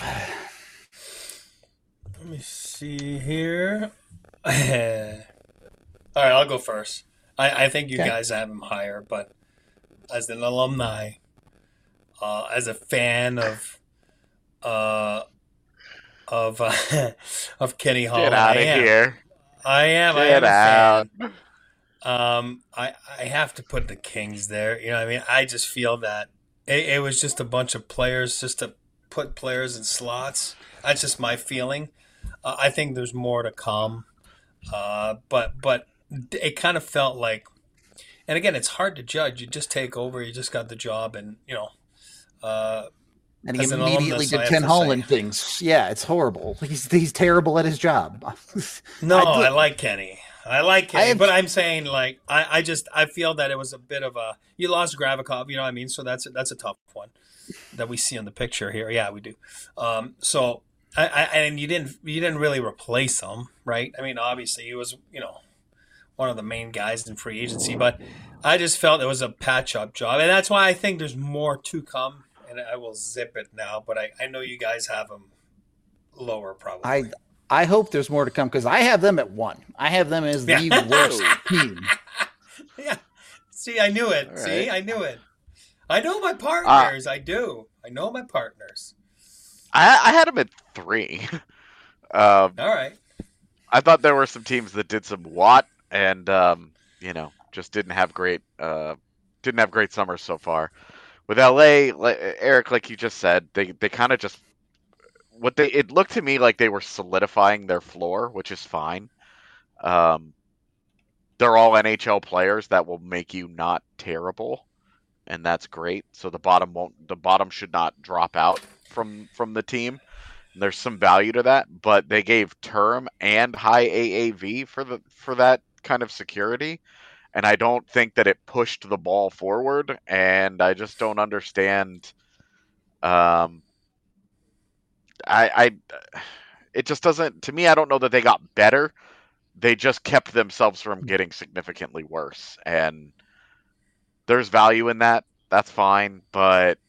Let me see here. All right, I'll go first. I, I think you okay. guys have him higher, but as an alumni, uh, as a fan of Uh, of uh, of Kenny Hall. Get out of here! I am. Get I am out. Um, I I have to put the Kings there. You know, what I mean, I just feel that it, it was just a bunch of players just to put players in slots. That's just my feeling. Uh, I think there's more to come. Uh, but but it kind of felt like, and again, it's hard to judge. You just take over. You just got the job, and you know. Uh, And he immediately did Ken Holland say. things. Yeah, it's horrible. He's he's terrible at his job. no, I, I like Kenny. I like Kenny, I have, but I'm saying like I, I just I feel that it was a bit of a you lost Gravikov, you know what I mean? So that's that's a tough one that we see on the picture here. Yeah, we do. Um, so I, I and you didn't you didn't really replace him, right? I mean, obviously he was you know one of the main guys in free agency. But I just felt it was a patch-up job, and that's why I think there's more to come. And I will zip it now, but I, I know you guys have them lower probably. I I hope there's more to come because I have them at one. I have them as the Yeah. worst team. Yeah. See, I knew it. All See, right. I knew it. I know my partners. I do. I know my partners. I, I had them at three. um, All right. I thought there were some teams that did some Watt and um, you know just didn't have great uh, didn't have great summers so far. With L A, like, Eric, like you just said, they they kind of just what they it looked to me like they were solidifying their floor, which is fine. Um, they're all N H L players that will make you not terrible, and that's great. So the bottom won't the bottom should not drop out from from the team. There's some value to that, but they gave term and high A A V for the for that kind of security, and I don't think that it pushed the ball forward. And I just don't understand. Um, I, I, it just doesn't to me. I don't know that they got better. They just kept themselves from getting significantly worse, and there's value in that. That's fine, but.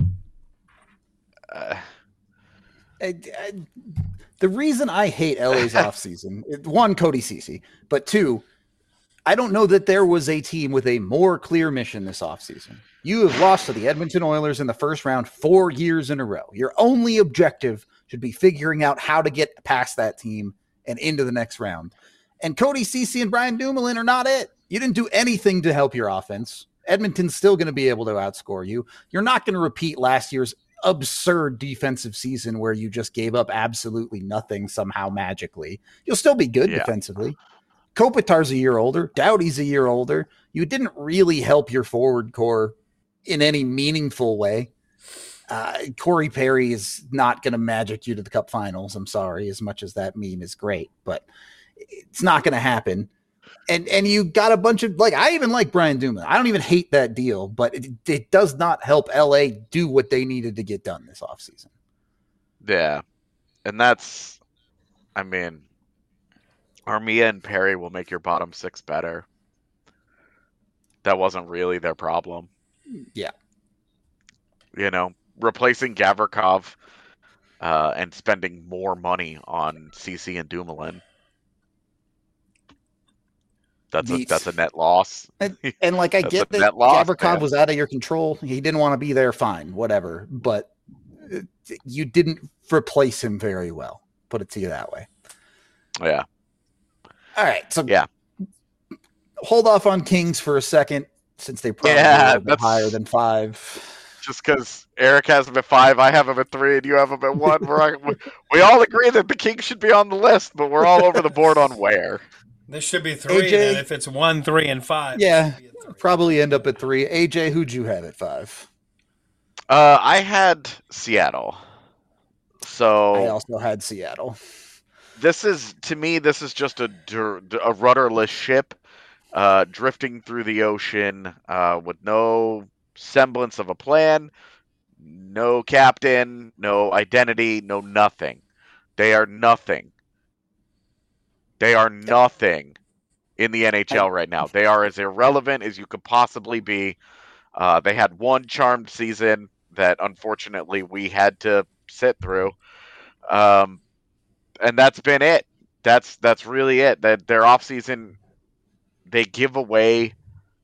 Uh, I, I, the reason I hate L A's offseason, it- one, Cody Ceci, but two, I don't know that there was a team with a more clear mission this offseason. You have lost to the Edmonton Oilers in the first round four years in a row. Your only objective should be figuring out how to get past that team and into the next round. And Cody Ceci and Brian Dumoulin are not it. You didn't do anything to help your offense. Edmonton's still going to be able to outscore you. You're not going to repeat last year's absurd defensive season where you just gave up absolutely nothing somehow magically. You'll still be good Yeah. defensively. Kopitar's a year older. Doughty's a year older. You didn't really help your forward core in any meaningful way. Uh, Corey Perry is not going to magic you to the Cup Finals. I'm sorry, as much as that meme is great, but it's not going to happen. And and you got a bunch of, like, I even like Brian Dumoulin. I don't even hate that deal, but it, it does not help L A do what they needed to get done this offseason. Yeah, and that's, I mean, Armia and Perry will make your bottom six better. That wasn't really their problem. Yeah. You know, replacing Gavrikov uh, and spending more money on C C and Dumoulin. That's a, Beats. that's a net loss. And, and like, I That's get a that net loss, Gavrikov man. was out of your control. He didn't want to be there. Fine, whatever. But uh, you didn't replace him very well. Put it to you that way. Yeah. All right. So Yeah. hold off on Kings for a second, since they probably Yeah, are a little bit that's- higher than five. Just because Eric has them at five, I have them at three, and you have them at one. We're, we, we all agree that the Kings should be on the list, but we're all over the board on where. This should be three. A J? Then if it's one, three, and five. it Yeah, should be a three. probably end up at three. A J, who'd you have at five? Uh, I had Seattle. So I also had Seattle. this is, to me, this is just a, dur- a rudderless ship uh, drifting through the ocean uh, with no semblance of a plan, no captain, no identity, no nothing. They are nothing. They are nothing in the N H L right now. They are as irrelevant as you could possibly be. Uh, they had one charmed season that unfortunately we had to sit through. Um, and that's been it. That's that's really it. That their offseason, they give away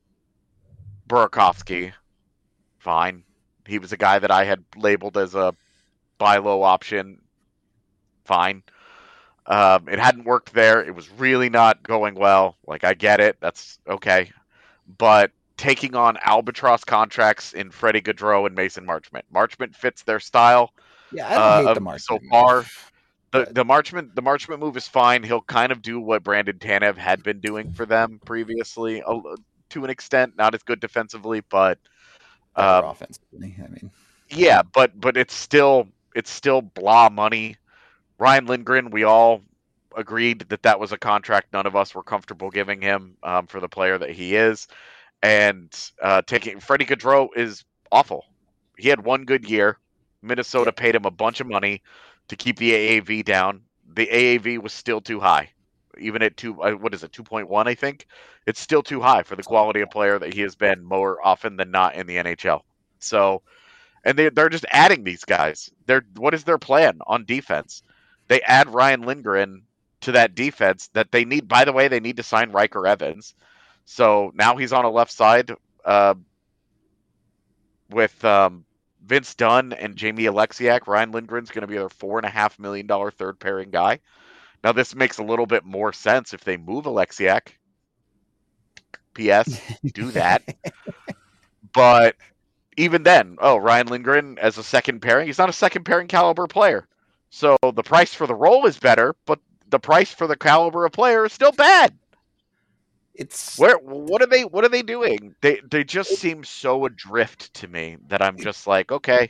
Burakovsky. Fine. He was a guy that I had labeled as a buy low option. Fine. Um, it hadn't worked there. It was really not going well. Like, I get it. That's okay. But taking on albatross contracts in Freddie Gaudreau and Mason Marchment. Marchment fits their style. Yeah, I don't Uh, hate the of- mark so far. The the Marchment the Marchment move is fine. He'll kind of do what Brandon Tanev had been doing for them previously, a- to an extent. Not as good defensively, but Better um, offensively. I mean, yeah, but but it's still it's still blah money. Ryan Lindgren, we all agreed that that was a contract none of us were comfortable giving him um, for the player that he is, and uh, taking Freddie Gaudreau is awful. He had one good year. Minnesota paid him a bunch of money to keep the A A V down. The A A V was still too high. even at two, uh, what is it, two point one, I think, it's still too high for the quality of player that he has been more often than not in the N H L. So, and they they're just adding these guys. They're what is their plan on defense? They add Ryan Lindgren to that defense that they need. By the way, they need to sign Riker Evans. So now he's on a left side uh, with um, Vince Dunn and Jamie Alexiak. Ryan Lindgren's going to be their four and a half million dollar third pairing guy. Now this makes a little bit more sense if they move Alexiak. P S. Do that. But even then, oh, Ryan Lindgren as a second pairing, he's not a second pairing caliber player. So the price for the role is better, but the price for the caliber of player is still bad. It's where what are they what are they doing? They they just seem so adrift to me that I'm just like, okay,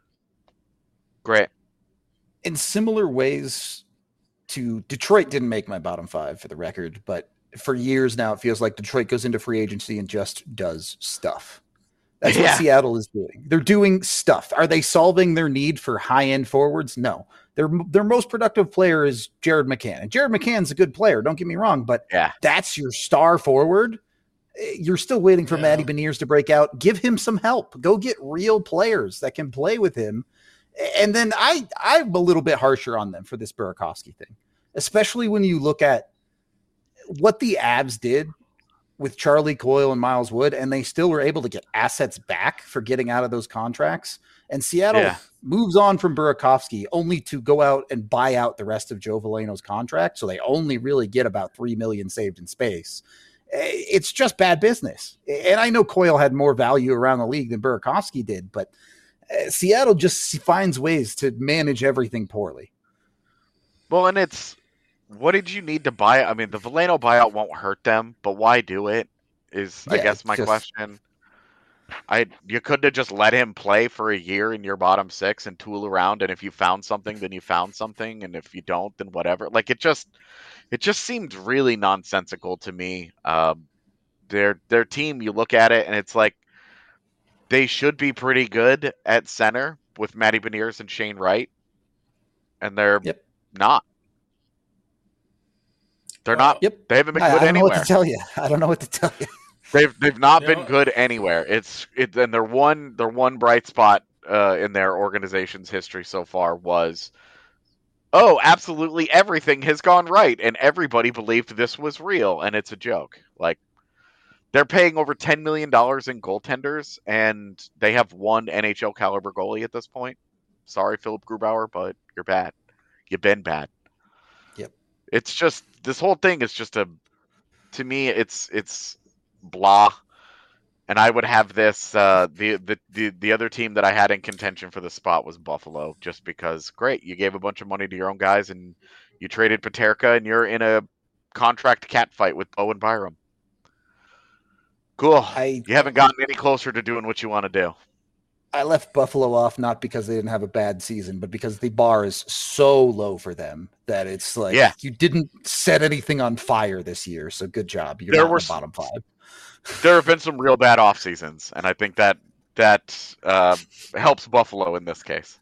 great. In similar ways to Detroit didn't make my bottom five for the record, but for years now it feels like Detroit goes into free agency and just does stuff. That's what Yeah. Seattle is doing. They're doing stuff. Are they solving their need for high-end forwards? No. Their their most productive player is Jared McCann. And Jared McCann's a good player, don't get me wrong, but Yeah. that's your star forward. You're still waiting for Yeah. Matty Beniers to break out. Give him some help. Go get real players that can play with him. And then I, I'm a little bit harsher on them for this Burakovsky thing, especially when you look at what the Avs did with Charlie Coyle and Miles Wood, and they still were able to get assets back for getting out of those contracts. And Seattle Yeah. moves on from Burakovsky only to go out and buy out the rest of Joe Veleno's contract. So they only really get about three million dollars saved in space. It's just bad business. And I know Coyle had more value around the league than Burakovsky did, but Seattle just finds ways to manage everything poorly. Well, and it's what did you need to buy? I mean, the Veleno buyout won't hurt them, but why do it? Is I Yeah, guess my just- question. I you could have just let him play for a year in your bottom six and tool around, and if you found something, then you found something, and if you don't, then whatever. Like it just, it just seemed really nonsensical to me. Um, their their team, you look at it, and it's like they should be pretty good at center with Matty Beniers and Shane Wright, and they're Yep. not. They're not. Yep. They haven't been I, good I don't know anywhere. what to tell you. I don't know what to tell you. They've they've not You been know- good anywhere. It's it and their one their one bright spot uh, in their organization's history so far was, oh, absolutely everything has gone right, and everybody believed this was real, and it's a joke. Like they're paying over ten million dollars in goaltenders, and they have one N H L caliber goalie at this point. Sorry, Philip Grubauer, but you're bad. You've been bad. Yep. It's just this whole thing is just a. To me, it's it's blah. And I would have this. Uh, the, the the the other team that I had in contention for the spot was Buffalo, just because. Great, you gave a bunch of money to your own guys, and you traded Paterka, and you're in a contract cat fight with Bowen Byram. Cool. I You haven't gotten any closer to doing what you want to do. I left Buffalo off not because they didn't have a bad season, but because the bar is so low for them that it's like Yeah. you didn't set anything on fire this year. So good job. You're There not were in the bottom five. There have been some real bad off seasons, and I think that that uh, helps Buffalo in this case.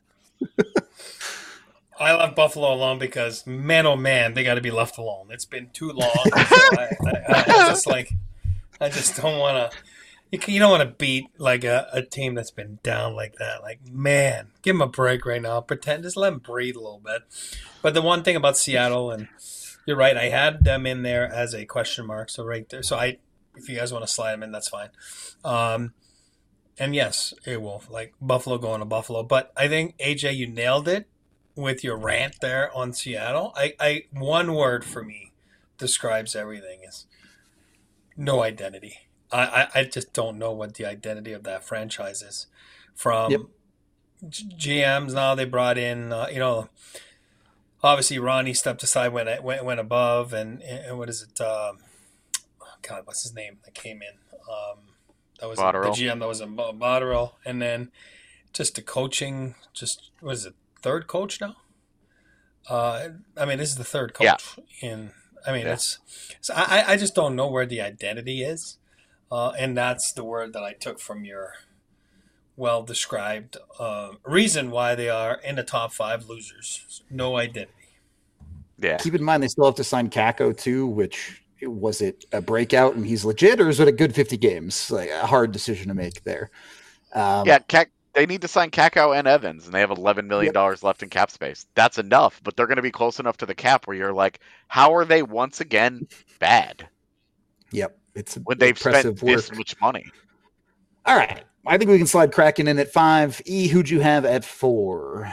I left Buffalo alone because, man, oh man, they got to be left alone. It's been too long. So I, I, I, I just like, I just don't want to. You, can- you don't want to beat like a, a team that's been down like that. Like, man, give them a break right now. Pretend, just let them breathe a little bit. But the one thing about Seattle, and you're right, I had them in there as a question mark. So right there, so I, if you guys want to slide them in, that's fine. Um, and yes, it will like Buffalo going to Buffalo. But I think A J, you nailed it with your rant there on Seattle. I, I one word for me describes everything is no identity. I, I, I just don't know what the identity of that franchise is. From Yep. G- GMs now they brought in, uh, you know, obviously Ronnie stepped aside when it went, went above, and, and what is it? Um, God, what's his name that came in? Um, that was Botterill. the G M that was in Bo- Botterill, and then just the coaching. Just what is it? Third coach now. Uh, I mean, this is the third coach Yeah. in. I mean, Yeah. it's. So I, I just don't know where the identity is, uh, and that's the word that I took from your well described uh, reason why they are in the top five losers. No identity. Yeah. Keep in mind they still have to sign Kako too, which was it a breakout and he's legit, or is it a good fifty games? Like a hard decision to make there. Um, yeah, Kak- they need to sign Kakao and Evans, and they have eleven million dollars yep. left in cap space. That's enough, but they're going to be close enough to the cap where you're like, how are they once again bad? Yep, it's when they've spent work. this much money. All right, I think we can slide Kraken in at five. E, who'd you have at four?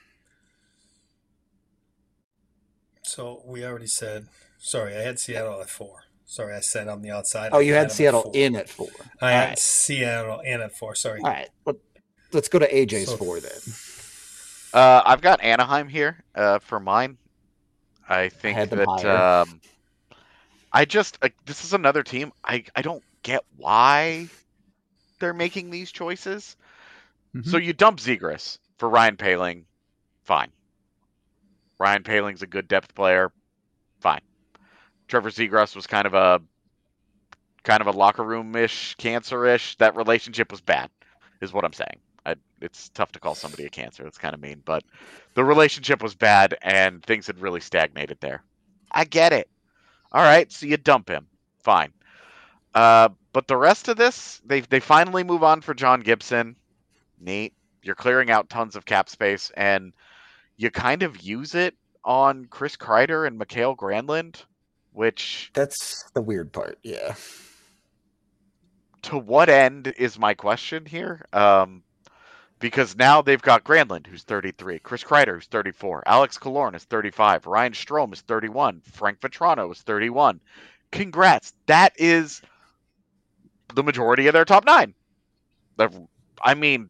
So we already said. Sorry, I had Seattle at four. Sorry, I said on the outside. Oh, you I had Seattle at in at four. I All had right. Seattle in at four. Sorry. All right, Let, let's go to A J's so, four then. Uh, I've got Anaheim here uh, for mine. I think I that um, I just uh, this is another team. I I don't get why they're making these choices. Mm-hmm. So you dump Zegras for Ryan Poehling, fine. Ryan Poehling's a good depth player, fine. Trevor Zegras was kind of a kind of a locker room-ish, cancer-ish. That relationship was bad, is what I'm saying. I, it's tough to call somebody a cancer. That's kind of mean, but the relationship was bad and things had really stagnated there. I get it. All right, so you dump him, fine. Uh, but the rest of this, they they finally move on for John Gibson. Neat. You're clearing out tons of cap space, and you kind of use it on Chris Kreider and Mikael Granlund. Which that's the weird part, yeah. To what end is my question here? Um, because now they've got Granlund, who's thirty-three, Chris Kreider, who's thirty-four, Alex Killorn is thirty-five, Ryan Strome is thirty-one, Frank Vetrano is thirty-one. Congrats. That is the majority of their top nine. I mean,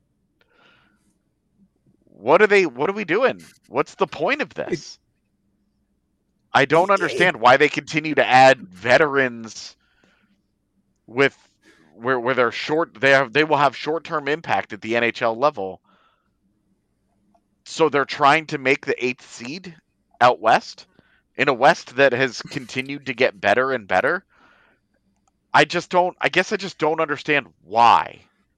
what are they? What are we doing? What's the point of this? I don't understand why they continue to add veterans with where where they're short. They have they will have short term impact at the N H L level. So they're trying to make the eighth seed out west in a West that has continued to get better and better. I just don't. I guess I just don't understand why.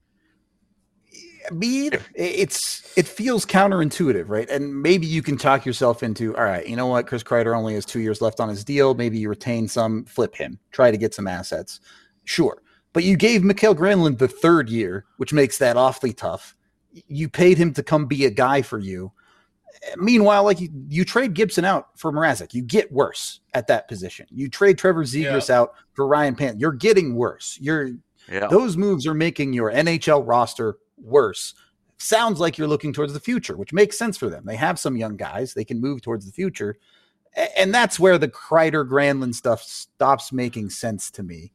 Me either. It's it feels counterintuitive, right? And maybe you can talk yourself into, all right, you know what? Chris Kreider only has two years left on his deal. Maybe you retain some, flip him, try to get some assets. Sure. But you gave Mikael Granlund the third year, which makes that awfully tough. You paid him to come be a guy for you. Meanwhile, like you, you trade Gibson out for Mrazek, you get worse at that position. You trade Trevor Zegras yeah. out for Ryan Pan, you're getting worse. You're yeah. Those moves are making your N H L roster worse. Sounds like you're looking towards the future, which makes sense for them. They have some young guys. They can move towards the future. And that's where the Kreider Granlund stuff stops making sense to me.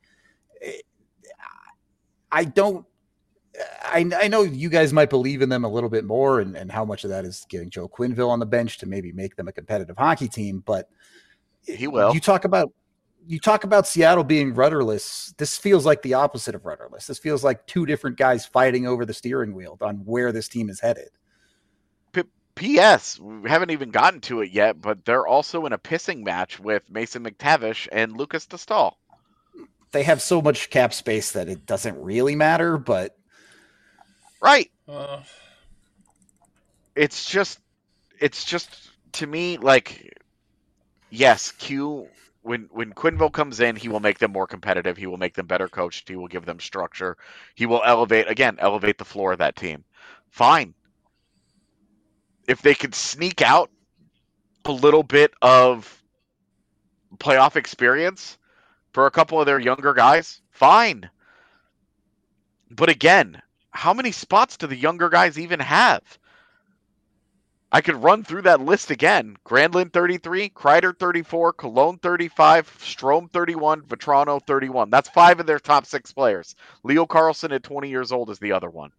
I don't, I, I know you guys might believe in them a little bit more and, and how much of that is getting Joe Quenneville on the bench to maybe make them a competitive hockey team. But he will. You talk about, You talk about Seattle being rudderless. This feels like the opposite of rudderless. This feels like two different guys fighting over the steering wheel on where this team is headed. P S We haven't even gotten to it yet, but they're also in a pissing match with Mason McTavish and Lucas Dostal. They have so much cap space that it doesn't really matter, but right. Uh... It's just, it's just to me like, yes, Q. When when Quenneville comes in, he will make them more competitive. He will make them better coached. He will give them structure. He will elevate, again, elevate the floor of that team. Fine. If they could sneak out a little bit of playoff experience for a couple of their younger guys, fine. But again, how many spots do the younger guys even have? I could run through that list again. Granlund thirty-three, Kreider thirty-four, Cologne thirty-five, Strome thirty-one, Vetrano thirty-one. That's five of their top six players. Leo Carlsson at twenty years old is the other one.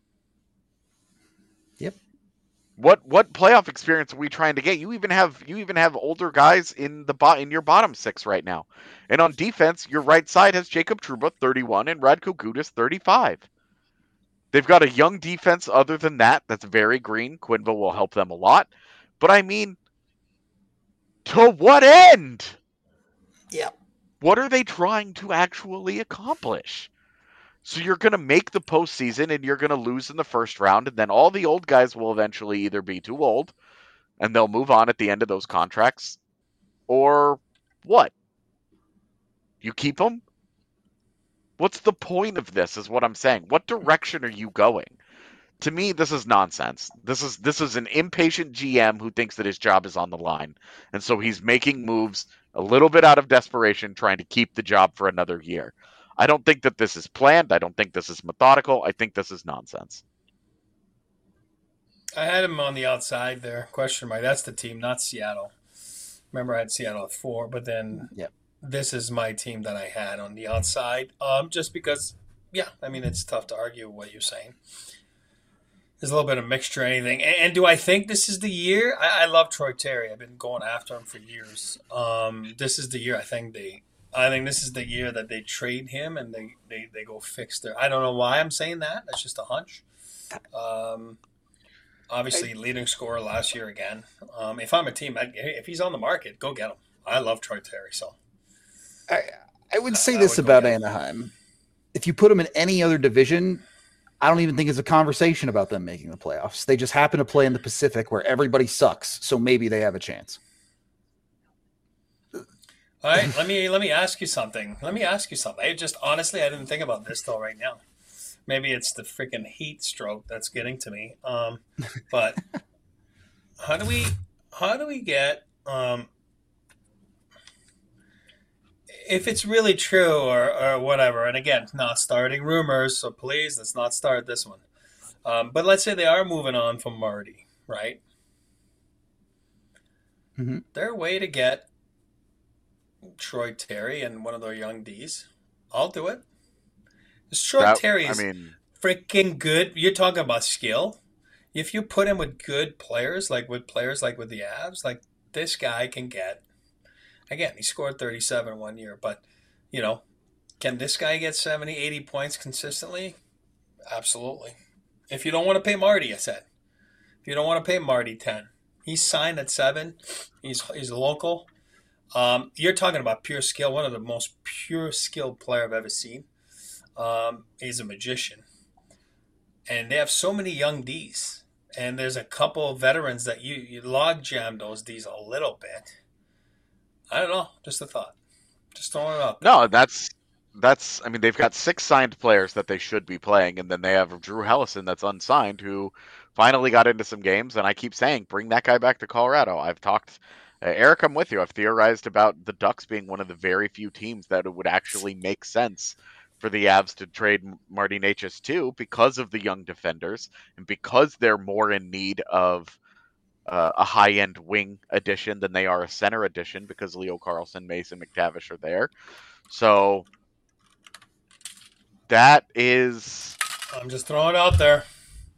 Yep. What what playoff experience are we trying to get? You even have you even have older guys in the bo- in your bottom six right now. And on defense, your right side has Jacob Trouba thirty-one and Radko Gudas thirty-five. They've got a young defense other than that that's very green. Quenneville will help them a lot. But I mean, to what end? Yeah. What are they trying to actually accomplish? So you're going to make the postseason and you're going to lose in the first round, and then all the old guys will eventually either be too old and they'll move on at the end of those contracts, or what? You keep him? What's the point of this is what I'm saying. What direction are you going? To me, this is nonsense. This is this is an impatient G M who thinks that his job is on the line. And so he's making moves a little bit out of desperation, trying to keep the job for another year. I don't think that this is planned. I don't think this is methodical. I think this is nonsense. I had him on the outside there. Question mark. That's the team, not Seattle. Remember, I had Seattle at four, but then Yep. this is my team that I had on the outside. Um, just because, yeah, I mean, it's tough to argue what you're saying. There's a little bit of mixture, anything. And, and do I think this is the year? I, I love Troy Terry. I've been going after him for years. Um, this is the year I think they. I think this is the year that they trade him and they, they, they go fix their. I don't know why I'm saying that. That's just a hunch. Um, obviously, leading scorer last year again. Um, if I'm a team, I, if he's on the market, go get him. I love Troy Terry. So I, I would say I this would go about get him. Anaheim. If you put them in any other division, I don't even think it's a conversation about them making the playoffs. They just happen to play in the Pacific where everybody sucks, so maybe they have a chance. All right, let me let me ask you something. Let me ask you something. I just honestly, I didn't think about this till right now. Maybe it's the freaking heat stroke that's getting to me. Um, but how do we how do we get um, if it's really true or or whatever? And again, not starting rumors, so please let's not start this one. Um, but let's say they are moving on from Marty, right? Mm-hmm. Their way to get Troy Terry and one of their young D's. I'll do it. This Troy That- Terry I is mean, freaking good. You're talking about skill. If you put him with good players, like with players like with the Avs, like this guy can get. Again, he scored thirty-seven one year, but you know, can this guy get seventy, eighty points consistently? Absolutely. If you don't want to pay Marty, I said. If you don't want to pay Marty ten, he's signed at seven. He's he's local. Um, you're talking about pure skill, one of the most pure skilled player I've ever seen. Um, he's a magician. And they have so many young Ds. And there's a couple of veterans that you, you log jam those Ds a little bit. I don't know. Just a thought. Just throwing it up. no, that's that's. I mean, they've got six signed players that they should be playing, and then they have Drew Hellison that's unsigned, who finally got into some games. And I keep saying, bring that guy back to Colorado. I've talked, uh, Eric, I'm with you. I've theorized about the Ducks being one of the very few teams that it would actually make sense for the Avs to trade Marty Necas to, because of the young defenders and because they're more in need of uh, a high-end wing addition than they are a center addition, because Leo Carlson, Mason McTavish are there. So that is I'm just throwing it out there.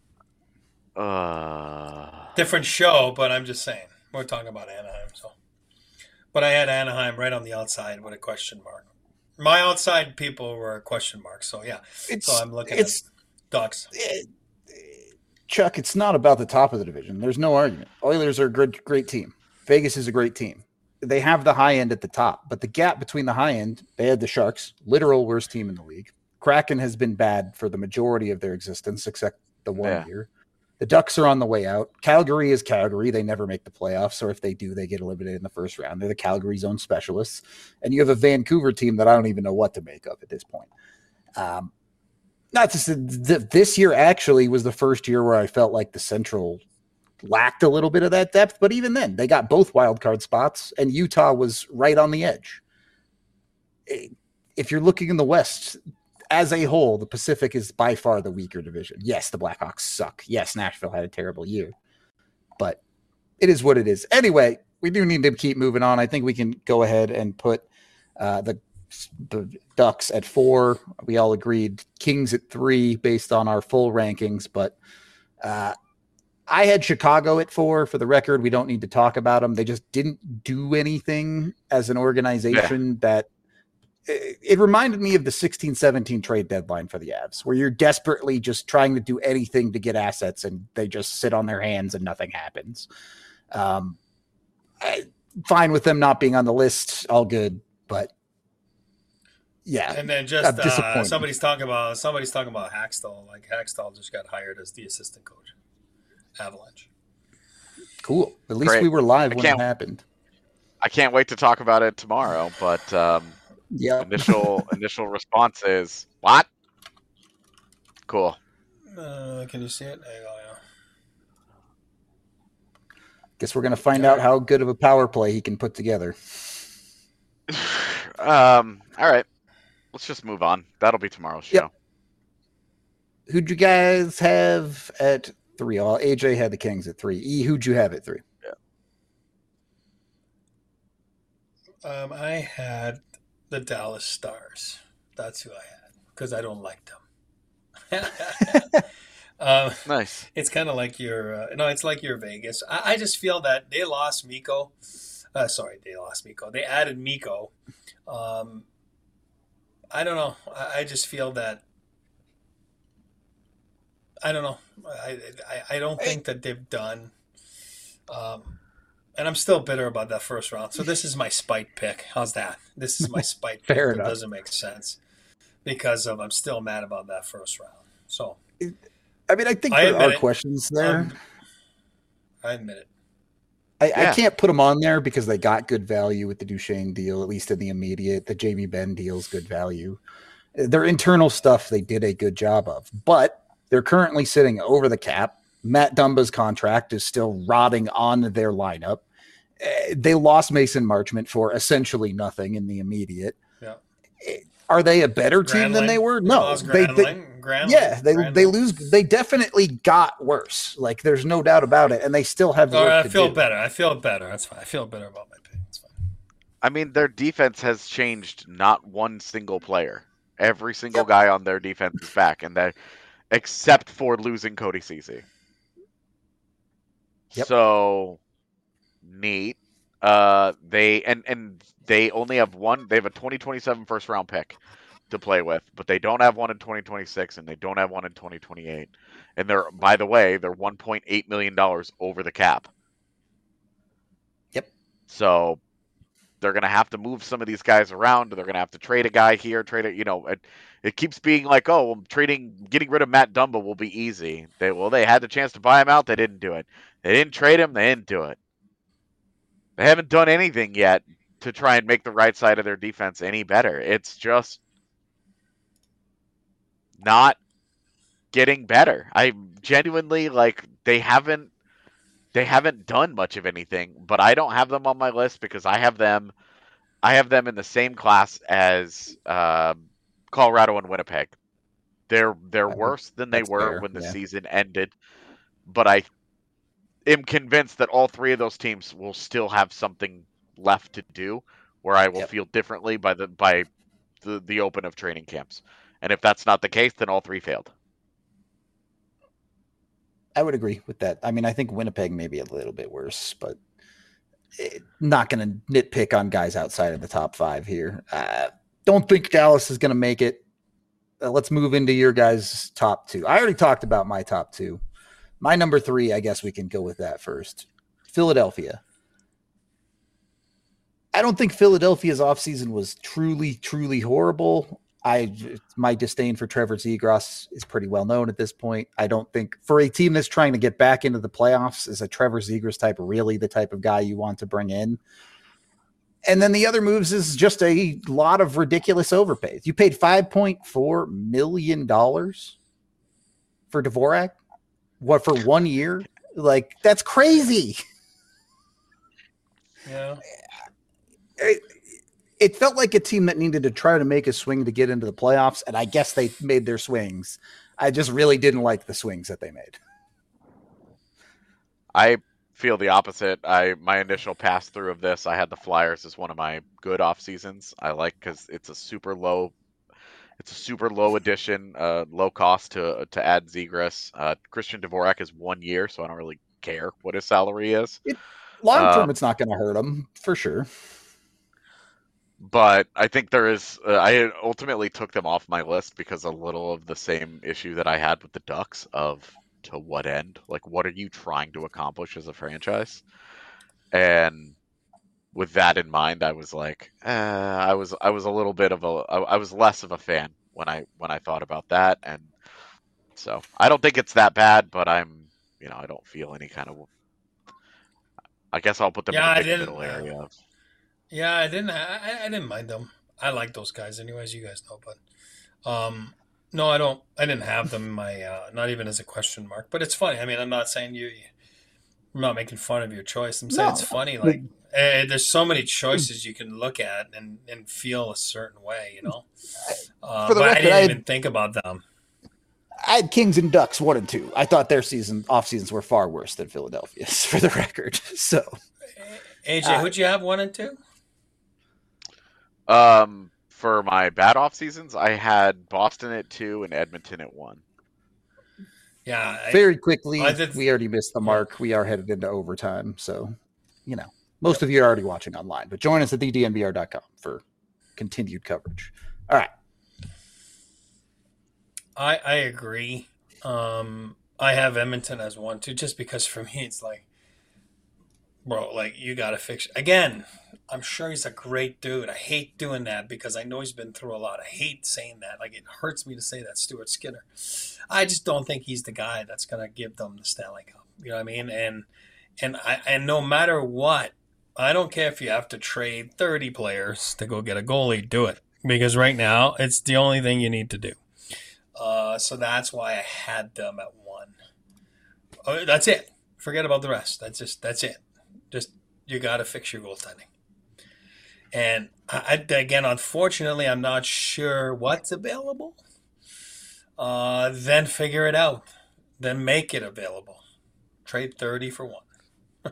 uh, Different show, but I'm just saying. We're talking about Anaheim. So, But I had Anaheim right on the outside with a question mark. My outside people were a question mark. So, yeah. It's, So I'm looking it's, at Ducks. it- Chuck, it's not about the top of the division. There's no argument. Oilers are a great, great team. Vegas is a great team. They have the high end at the top, but the gap between the high end, they had the Sharks, literal worst team in the league. Kraken has been bad for the majority of their existence, except the one Yeah. year. The Ducks are on the way out. Calgary is Calgary. They never make the playoffs, or if they do, they get eliminated in the first round. They're the Calgary zone specialists. And you have a Vancouver team that I don't even know what to make of at this point. Um, Not just th- this year actually was the first year where I felt like the Central lacked a little bit of that depth, but even then they got both wild card spots and Utah was right on the edge. If you're looking in the West as a whole, the Pacific is by far the weaker division. Yes, the Blackhawks suck. Yes, Nashville had a terrible year, but it is what it is. Anyway, we do need to keep moving on. I think we can go ahead and put uh, the the Ducks at four. We all agreed Kings at three based on our full rankings, but uh, I had Chicago at four. For the record, we don't need to talk about them. They just didn't do anything as an organization. Yeah. that it, it reminded me of the sixteen seventeen trade deadline for the Avs, where you're desperately just trying to do anything to get assets and they just sit on their hands and nothing happens. Um, I, fine with them not being on the list, all good, but yeah, and then just uh, somebody's talking about somebody's talking about Hackstall. Like Hackstall just got hired as the assistant coach, Avalanche. Cool. At least Great. we were live I when it can't- happened. I can't wait to talk about it tomorrow. But um, Yeah. initial initial response is what? Cool. Uh, can you see it? There you go, yeah. Guess we're gonna find All out right. how good of a power play he can put together. um. All right. Let's just move on. That'll be tomorrow's show. Yep. Who'd you guys have at three? All A J had the Kings at three. E, who'd you have at three? Um, I had the Dallas Stars. That's who I had because I don't like them. um, Nice. it's kind of like your uh, no, it's like your Vegas. I, I just feel that they lost Miko. Uh, sorry, they lost Miko. They added Miko. Um, I don't know. I, I just feel that. I don't know. I I, I don't think that they've done. Um, and I'm still bitter about that first round. So this is my spite pick. How's that? This is my spite pick. Fair That enough. doesn't make sense because of I'm still mad about that first round. So I mean, I think I there admit are it. questions there. Um, I admit it. I, Yeah. I can't put them on there because they got good value with the Duchesne deal, at least in the immediate. The Jamie Benn deal's good value. Their internal stuff they did a good job of, but they're currently sitting over the cap. Matt Dumba's contract is still rotting on their lineup. Eh, They lost Mason Marchment for essentially nothing in the immediate. Yeah. Eh, Are they a better team than Granlund. they were? They No, lost they, they Granlund. Granlund. yeah, they Granlund. they lose. They definitely got worse. Like there's no doubt about it, and they still have All work right, I to feel do. better. I feel better. That's fine. I feel better about my pick. That's fine. I mean, their defense has changed not one single player. Every single Yep. guy on their defense is back, and that except for losing Cody Cece. Yep. So neat. Uh, they and and they only have one. They have a twenty twenty-seven first round pick to play with, but they don't have one in twenty twenty-six, and they don't have one in twenty twenty-eight. And they're, by the way, they're one point eight million dollars over the cap. Yep. So they're going to have to move some of these guys around. They're going to have to trade a guy here, trade it. You know, it, it keeps being like, oh, well, trading, getting rid of Matt Dumba will be easy. They well, they had the chance to buy him out. They didn't do it. They didn't trade him. They didn't do it. They haven't done anything yet to try and make the right side of their defense any better. It's just not getting better. I genuinely like they haven't they haven't done much of anything, but I don't have them on my list because I have them I have them in the same class as uh, Colorado and Winnipeg. They're they're I think worse than they that's were fair, when the yeah. season ended, but I am convinced that all three of those teams will still have something left to do where I will Yep. feel differently by the by the, the open of training camps. And if that's not the case, then all three failed. I would agree with that. I mean, I think Winnipeg may be a little bit worse, but it, not going to nitpick on guys outside of the top five here. Uh, don't think Dallas is going to make it. Uh, let's move into your guys' top two. I already talked about my top two. My number three, I guess we can go with that first. Philadelphia. I don't think Philadelphia's offseason was truly, truly horrible. I my disdain for Trevor Zegras is pretty well known at this point. I don't think for a team that's trying to get back into the playoffs, is a Trevor Zegras type really the type of guy you want to bring in. And then the other moves is just a lot of ridiculous overpays. You paid five point four million dollars for Dvorak. What, for one year? Like, that's crazy. Yeah. It, it felt like a team that needed to try to make a swing to get into the playoffs, and I guess they made their swings. I just really didn't like the swings that they made. I feel the opposite. I my initial pass through of this, I had the Flyers as one of my good off seasons. I like because it's a super low, it's a super low addition, uh, low cost to to add Zegras. Uh, Christian Dvorak is one year, so I don't really care what his salary is. Long term, Um, it's not going to hurt them for sure. But I think there is. Uh, I ultimately took them off my list because a little of the same issue that I had with the Ducks of to what end? Like, what are you trying to accomplish as a franchise? And with that in mind, I was like, eh, I was I was a little bit of a I, I was less of a fan when I when I thought about that, and so I don't think it's that bad, but I'm you know I don't feel any kind of. I guess I'll put them Yeah, I in the big didn't, middle uh, area. Yeah, I didn't. I, I didn't mind them. I like those guys, anyways. You guys know, but um, no, I don't. I didn't have them in my. Uh, not even as a question mark. But it's funny. I mean, I'm not saying you. I'm not making fun of your choice. I'm saying it's No, funny. but Like, eh, there's so many choices you can look at and and feel a certain way. You know. Uh, for the but I record, didn't I had, even think about them. I had Kings and Ducks one and two. I thought their season off seasons were far worse than Philadelphia's, for the record. So, A J, uh, who'd you have one and two? Um, for my bad off seasons, I had Boston at two and Edmonton at one. Yeah, I, very quickly, I did- we already missed the yeah. mark. We are headed into overtime. So, you know, most of you are already watching online, but join us at the d n b r dot com for continued coverage. All right. I I agree. Um, I have Edmonton as one too, just because for me it's like, bro, like you got to fix again. I'm sure he's a great dude. I hate doing that because I know he's been through a lot. I hate saying that. Like it hurts me to say that, Stuart Skinner. I just don't think he's the guy that's gonna give them the Stanley Cup. You know what I mean? And and I and no matter what, I don't care if you have to trade thirty players to go get a goalie. Do it because right now it's the only thing you need to do. Uh, so that's why I had them at one. Oh, that's it. Forget about the rest. That's just that's it. Just you got to fix your goaltending. And I, I, again, unfortunately, I'm not sure what's available. Uh, then figure it out. Then make it available. Trade thirty for one.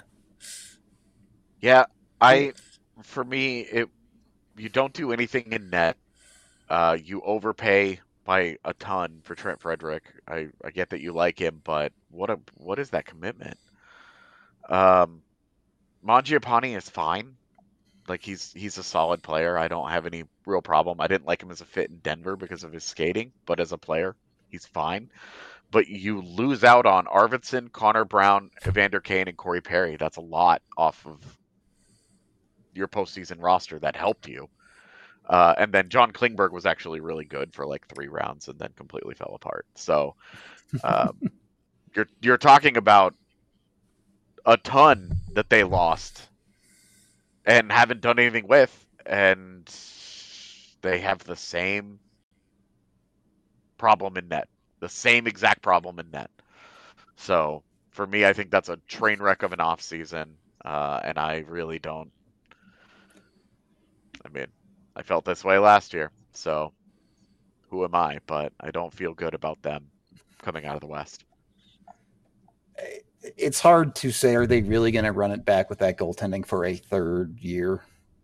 Yeah, I for me it you don't do anything in net. Uh, you overpay by a ton for Trent Frederick. I, I get that you like him, but what a what is that commitment? Um, Mangiapane is fine. Like he's he's a solid player. I don't have any real problem. I didn't like him as a fit in Denver because of his skating, but as a player, he's fine. But you lose out on Arvidsson, Connor Brown, Evander Kane, and Corey Perry. That's a lot off of your postseason roster that helped you. Uh, and then John Klingberg was actually really good for like three rounds and then completely fell apart. So um, you're you're talking about a ton that they lost and haven't done anything with, and they have the same problem in net, the same exact problem in net. So for me, I think that's a train wreck of an off season, uh, and I really don't. I mean, I felt this way last year, so who am I? But I don't feel good about them coming out of the West. It's hard to say, are they really going to run it back with that goaltending for a third year?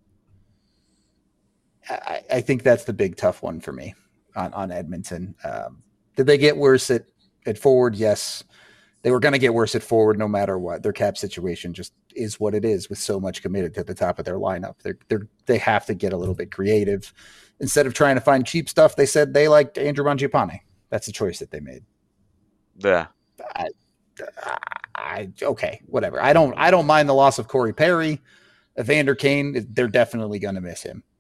I, I think that's the big tough one for me on, on Edmonton. Um, did they get worse at, at forward? Yes. They were going to get worse at forward no matter what. Their cap situation just is what it is with so much committed to the top of their lineup. They're, they're, they have to get a little bit creative. Instead of trying to find cheap stuff, they said they liked Andrew Mangiapane. That's a choice that they made. Yeah. I, I, okay, whatever. I don't I don't mind the loss of Corey Perry. Evander Kane, they're definitely going to miss him.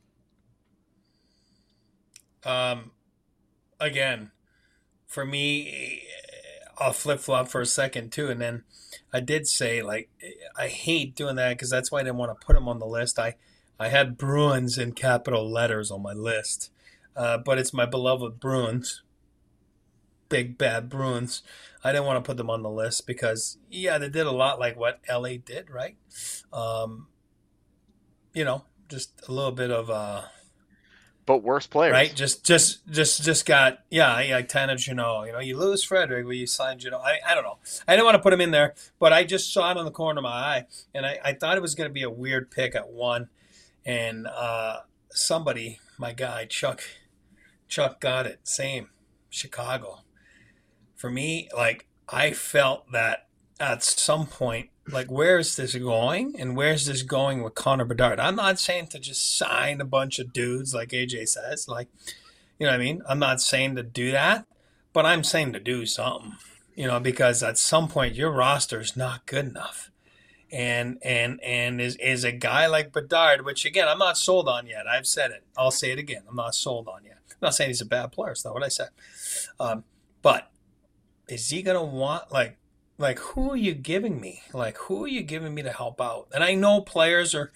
Um, again, for me, I'll flip flop for a second too, and then I did say like I hate doing that because that's why I didn't want to put him on the list. I I had Bruins in capital letters on my list, uh, but it's my beloved Bruins, big bad Bruins. I didn't want to put them on the list because yeah, they did a lot like what L A did, right? Um, you know, just a little bit of uh But worse players. right? Just, just, just, just got yeah, yeah, Tanner Janot. You know, you lose Frederick, but you sign Janot. I, I don't know. I didn't want to put him in there, but I just saw it on the corner of my eye, and I, I thought it was going to be a weird pick at one, and uh, somebody, my guy Chuck, Chuck got it. Same, Chicago. For me, like I felt that at some point. Like, where is this going? And where's this going with Connor Bedard? I'm not saying to just sign a bunch of dudes like A J says. Like, you know what I mean? I'm not saying to do that, but I'm saying to do something, you know, because at some point your roster is not good enough. And and and is, is a guy like Bedard, which, again, I'm not sold on yet. I've said it. I'll say it again. I'm not sold on yet. I'm not saying he's a bad player. It's not what I said. Um, but is he going to want, like, Like, who are you giving me? Like, who are you giving me to help out? And I know players are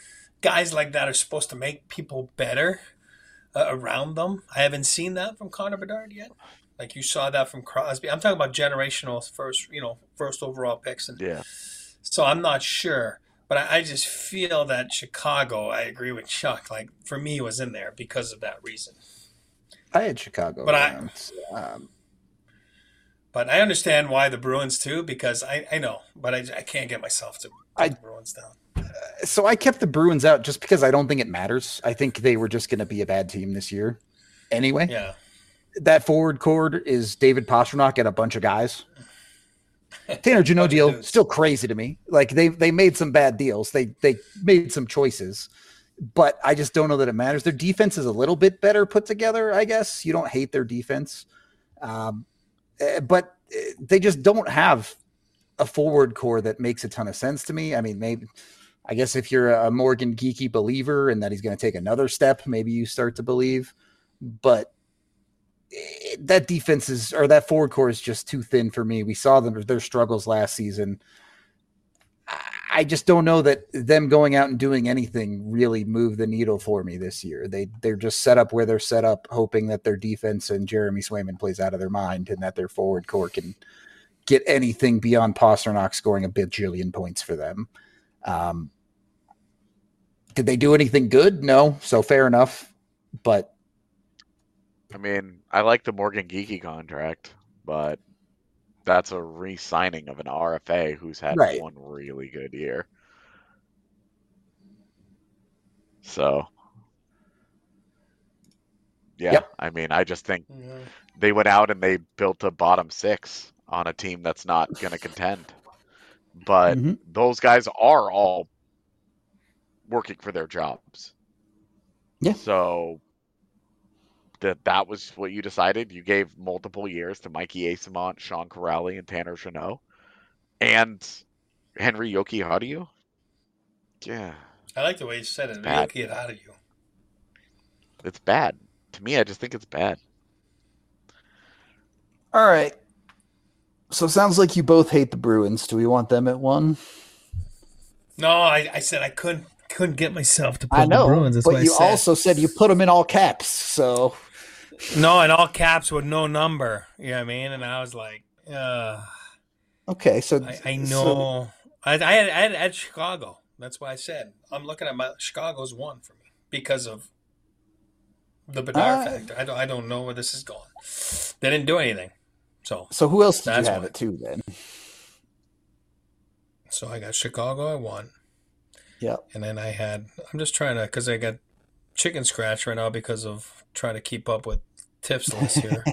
guys like that are supposed to make people better uh, around them. I haven't seen that from Connor Bedard yet. Like you saw that from Crosby. I'm talking about generational first, you know, first overall picks. And Yeah. so I'm not sure. But I, I just feel that Chicago, I agree with Chuck, like for me was in there because of that reason. I had Chicago. But around. I Um, but I understand why the Bruins too, because I, I know, but I, I can't get myself to put I- the Bruins down. so I kept the Bruins out just because I don't think it matters. I think they were just going to be a bad team this year. Anyway, Yeah. that forward core is David Pastrnak and a bunch of guys. Tanner Jeannot Bunch of deal dudes. still crazy to me. Like they they made some bad deals. They they made some choices, but I just don't know that it matters. Their defense is a little bit better put together. I guess you don't hate their defense, um, eh, but eh, they just don't have a forward core that makes a ton of sense to me. I mean, maybe I guess if you're a Morgan Geeky believer and that he's going to take another step, maybe you start to believe, but that defense is, or that forward core is just too thin for me. We saw them, their struggles last season. I just don't know that them going out and doing anything really moved the needle for me this year. They, they're just set up where they're set up, hoping that their defense and Jeremy Swayman plays out of their mind and that their forward core can get anything beyond Pastrnak scoring a bajillion points for them. Um, did they do anything good? No. So fair enough. But I mean, I like the Morgan Geeky contract, but that's a re-signing of an R F A who's had Right. one really good year. So, yeah, Yep. I mean, I just think Yeah. they went out and they built a bottom six on a team that's not going to contend. But Mhm. those guys are all working for their jobs. Yeah. So that that was what you decided. You gave multiple years to Mikey Asimont, Sean Corrali, and Tanner Jeannot, and Henry Yoki. How do you? Yeah, I like the way you said it. Bad. Yoki it out of you. it's bad. To me, I just think it's bad. All right. So it sounds like you both hate the Bruins. Do we want them at one? No, I, I said I couldn't couldn't get myself to put I know, the Bruins. That's but what I you said. also said you put them in all caps. So No, in all caps with no number. You know what I mean? And I was like, uh, okay, so I, I so- know. I, I, had, I had at Chicago. That's why I said I'm looking at my Chicago's one for me because of the Bedard Ah. factor. I don't I don't know where this is going. They didn't do anything, so so who else did That's you have why. it to then? so I got Chicago at one, Yeah. and then I had I'm just trying to because I got chicken scratch right now because of trying to keep up with tips list here.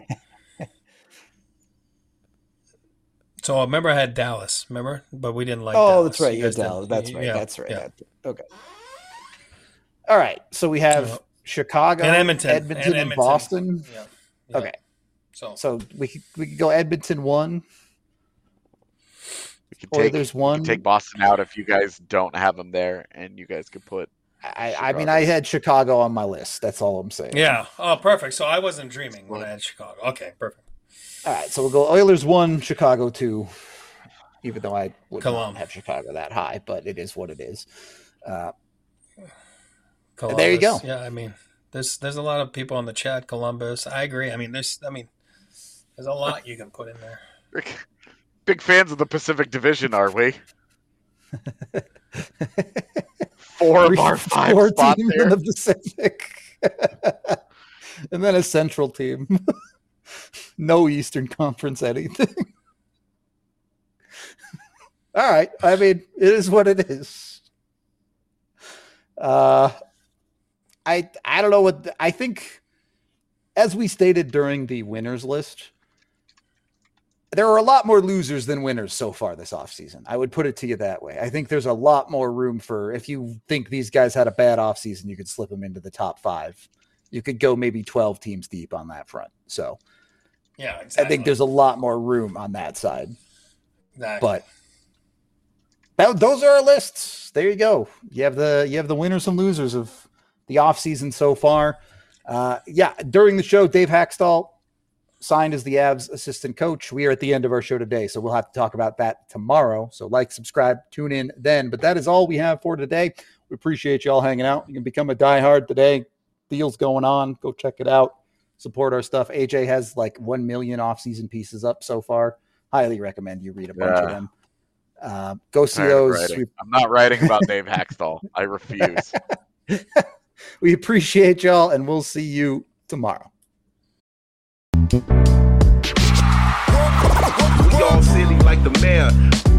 So remember I had Dallas, remember? But we didn't like Oh, Dallas. that's right. You You had guys didn't- Dallas. That's right. yeah, That's right. yeah. Okay. All right. So we have Yeah. Chicago, And Edmonton. Edmonton, And and, Edmonton. Boston. Yeah. Yeah. Okay. So So we could, we could go Edmonton one. We could Or take there's we one. could take Boston out if you guys don't have them there, and you guys could put. I, I mean, Chicago. I had Chicago on my list. That's all I'm saying. yeah. Oh, perfect. So I wasn't dreaming when I had Chicago. Okay, perfect. All right. So we'll go Oilers one, Chicago two. Even though I would Colum. not have Chicago that high, but it is what it is. Uh, Columbus. There you go. Yeah, I mean, there's there's a lot of people in the chat. Columbus. I agree. I mean, there's I mean, there's a lot you can put in there. Big fans of the Pacific Division, are we? Four three- of our five four spots teams there. in the Pacific, and then a Central team. No Eastern Conference anything. All right. I mean, it is what it is. Uh, I I don't know what the- I think. As we stated during the winners list, there are a lot more losers than winners so far this offseason. I would put it to you that way. I think there's a lot more room for, if you think these guys had a bad offseason, you could slip them into the top five. You could go maybe twelve teams deep on that front. So Yeah, I exactly. think there's a lot more room on that side. Exactly. But that, those are our lists. There you go. You have the you have the winners and losers of the offseason so far. Uh, yeah, during the show, Dave Hackstall signed as the Avs assistant coach. We are at the end of our show today, so we'll have to talk about that tomorrow. So like, subscribe, tune in then. But that is all we have for today. We appreciate you all hanging out. You can become a diehard today. Deals going on. Go check it out. Support our stuff. A J has like one million off-season pieces up so far. Highly recommend you read a bunch Yeah. of them. Uh, go see Tired of those. writing. We, I'm not writing about Dave Haxtell. I refuse. we appreciate y'all, and we'll see you tomorrow. We all silly like the mayor.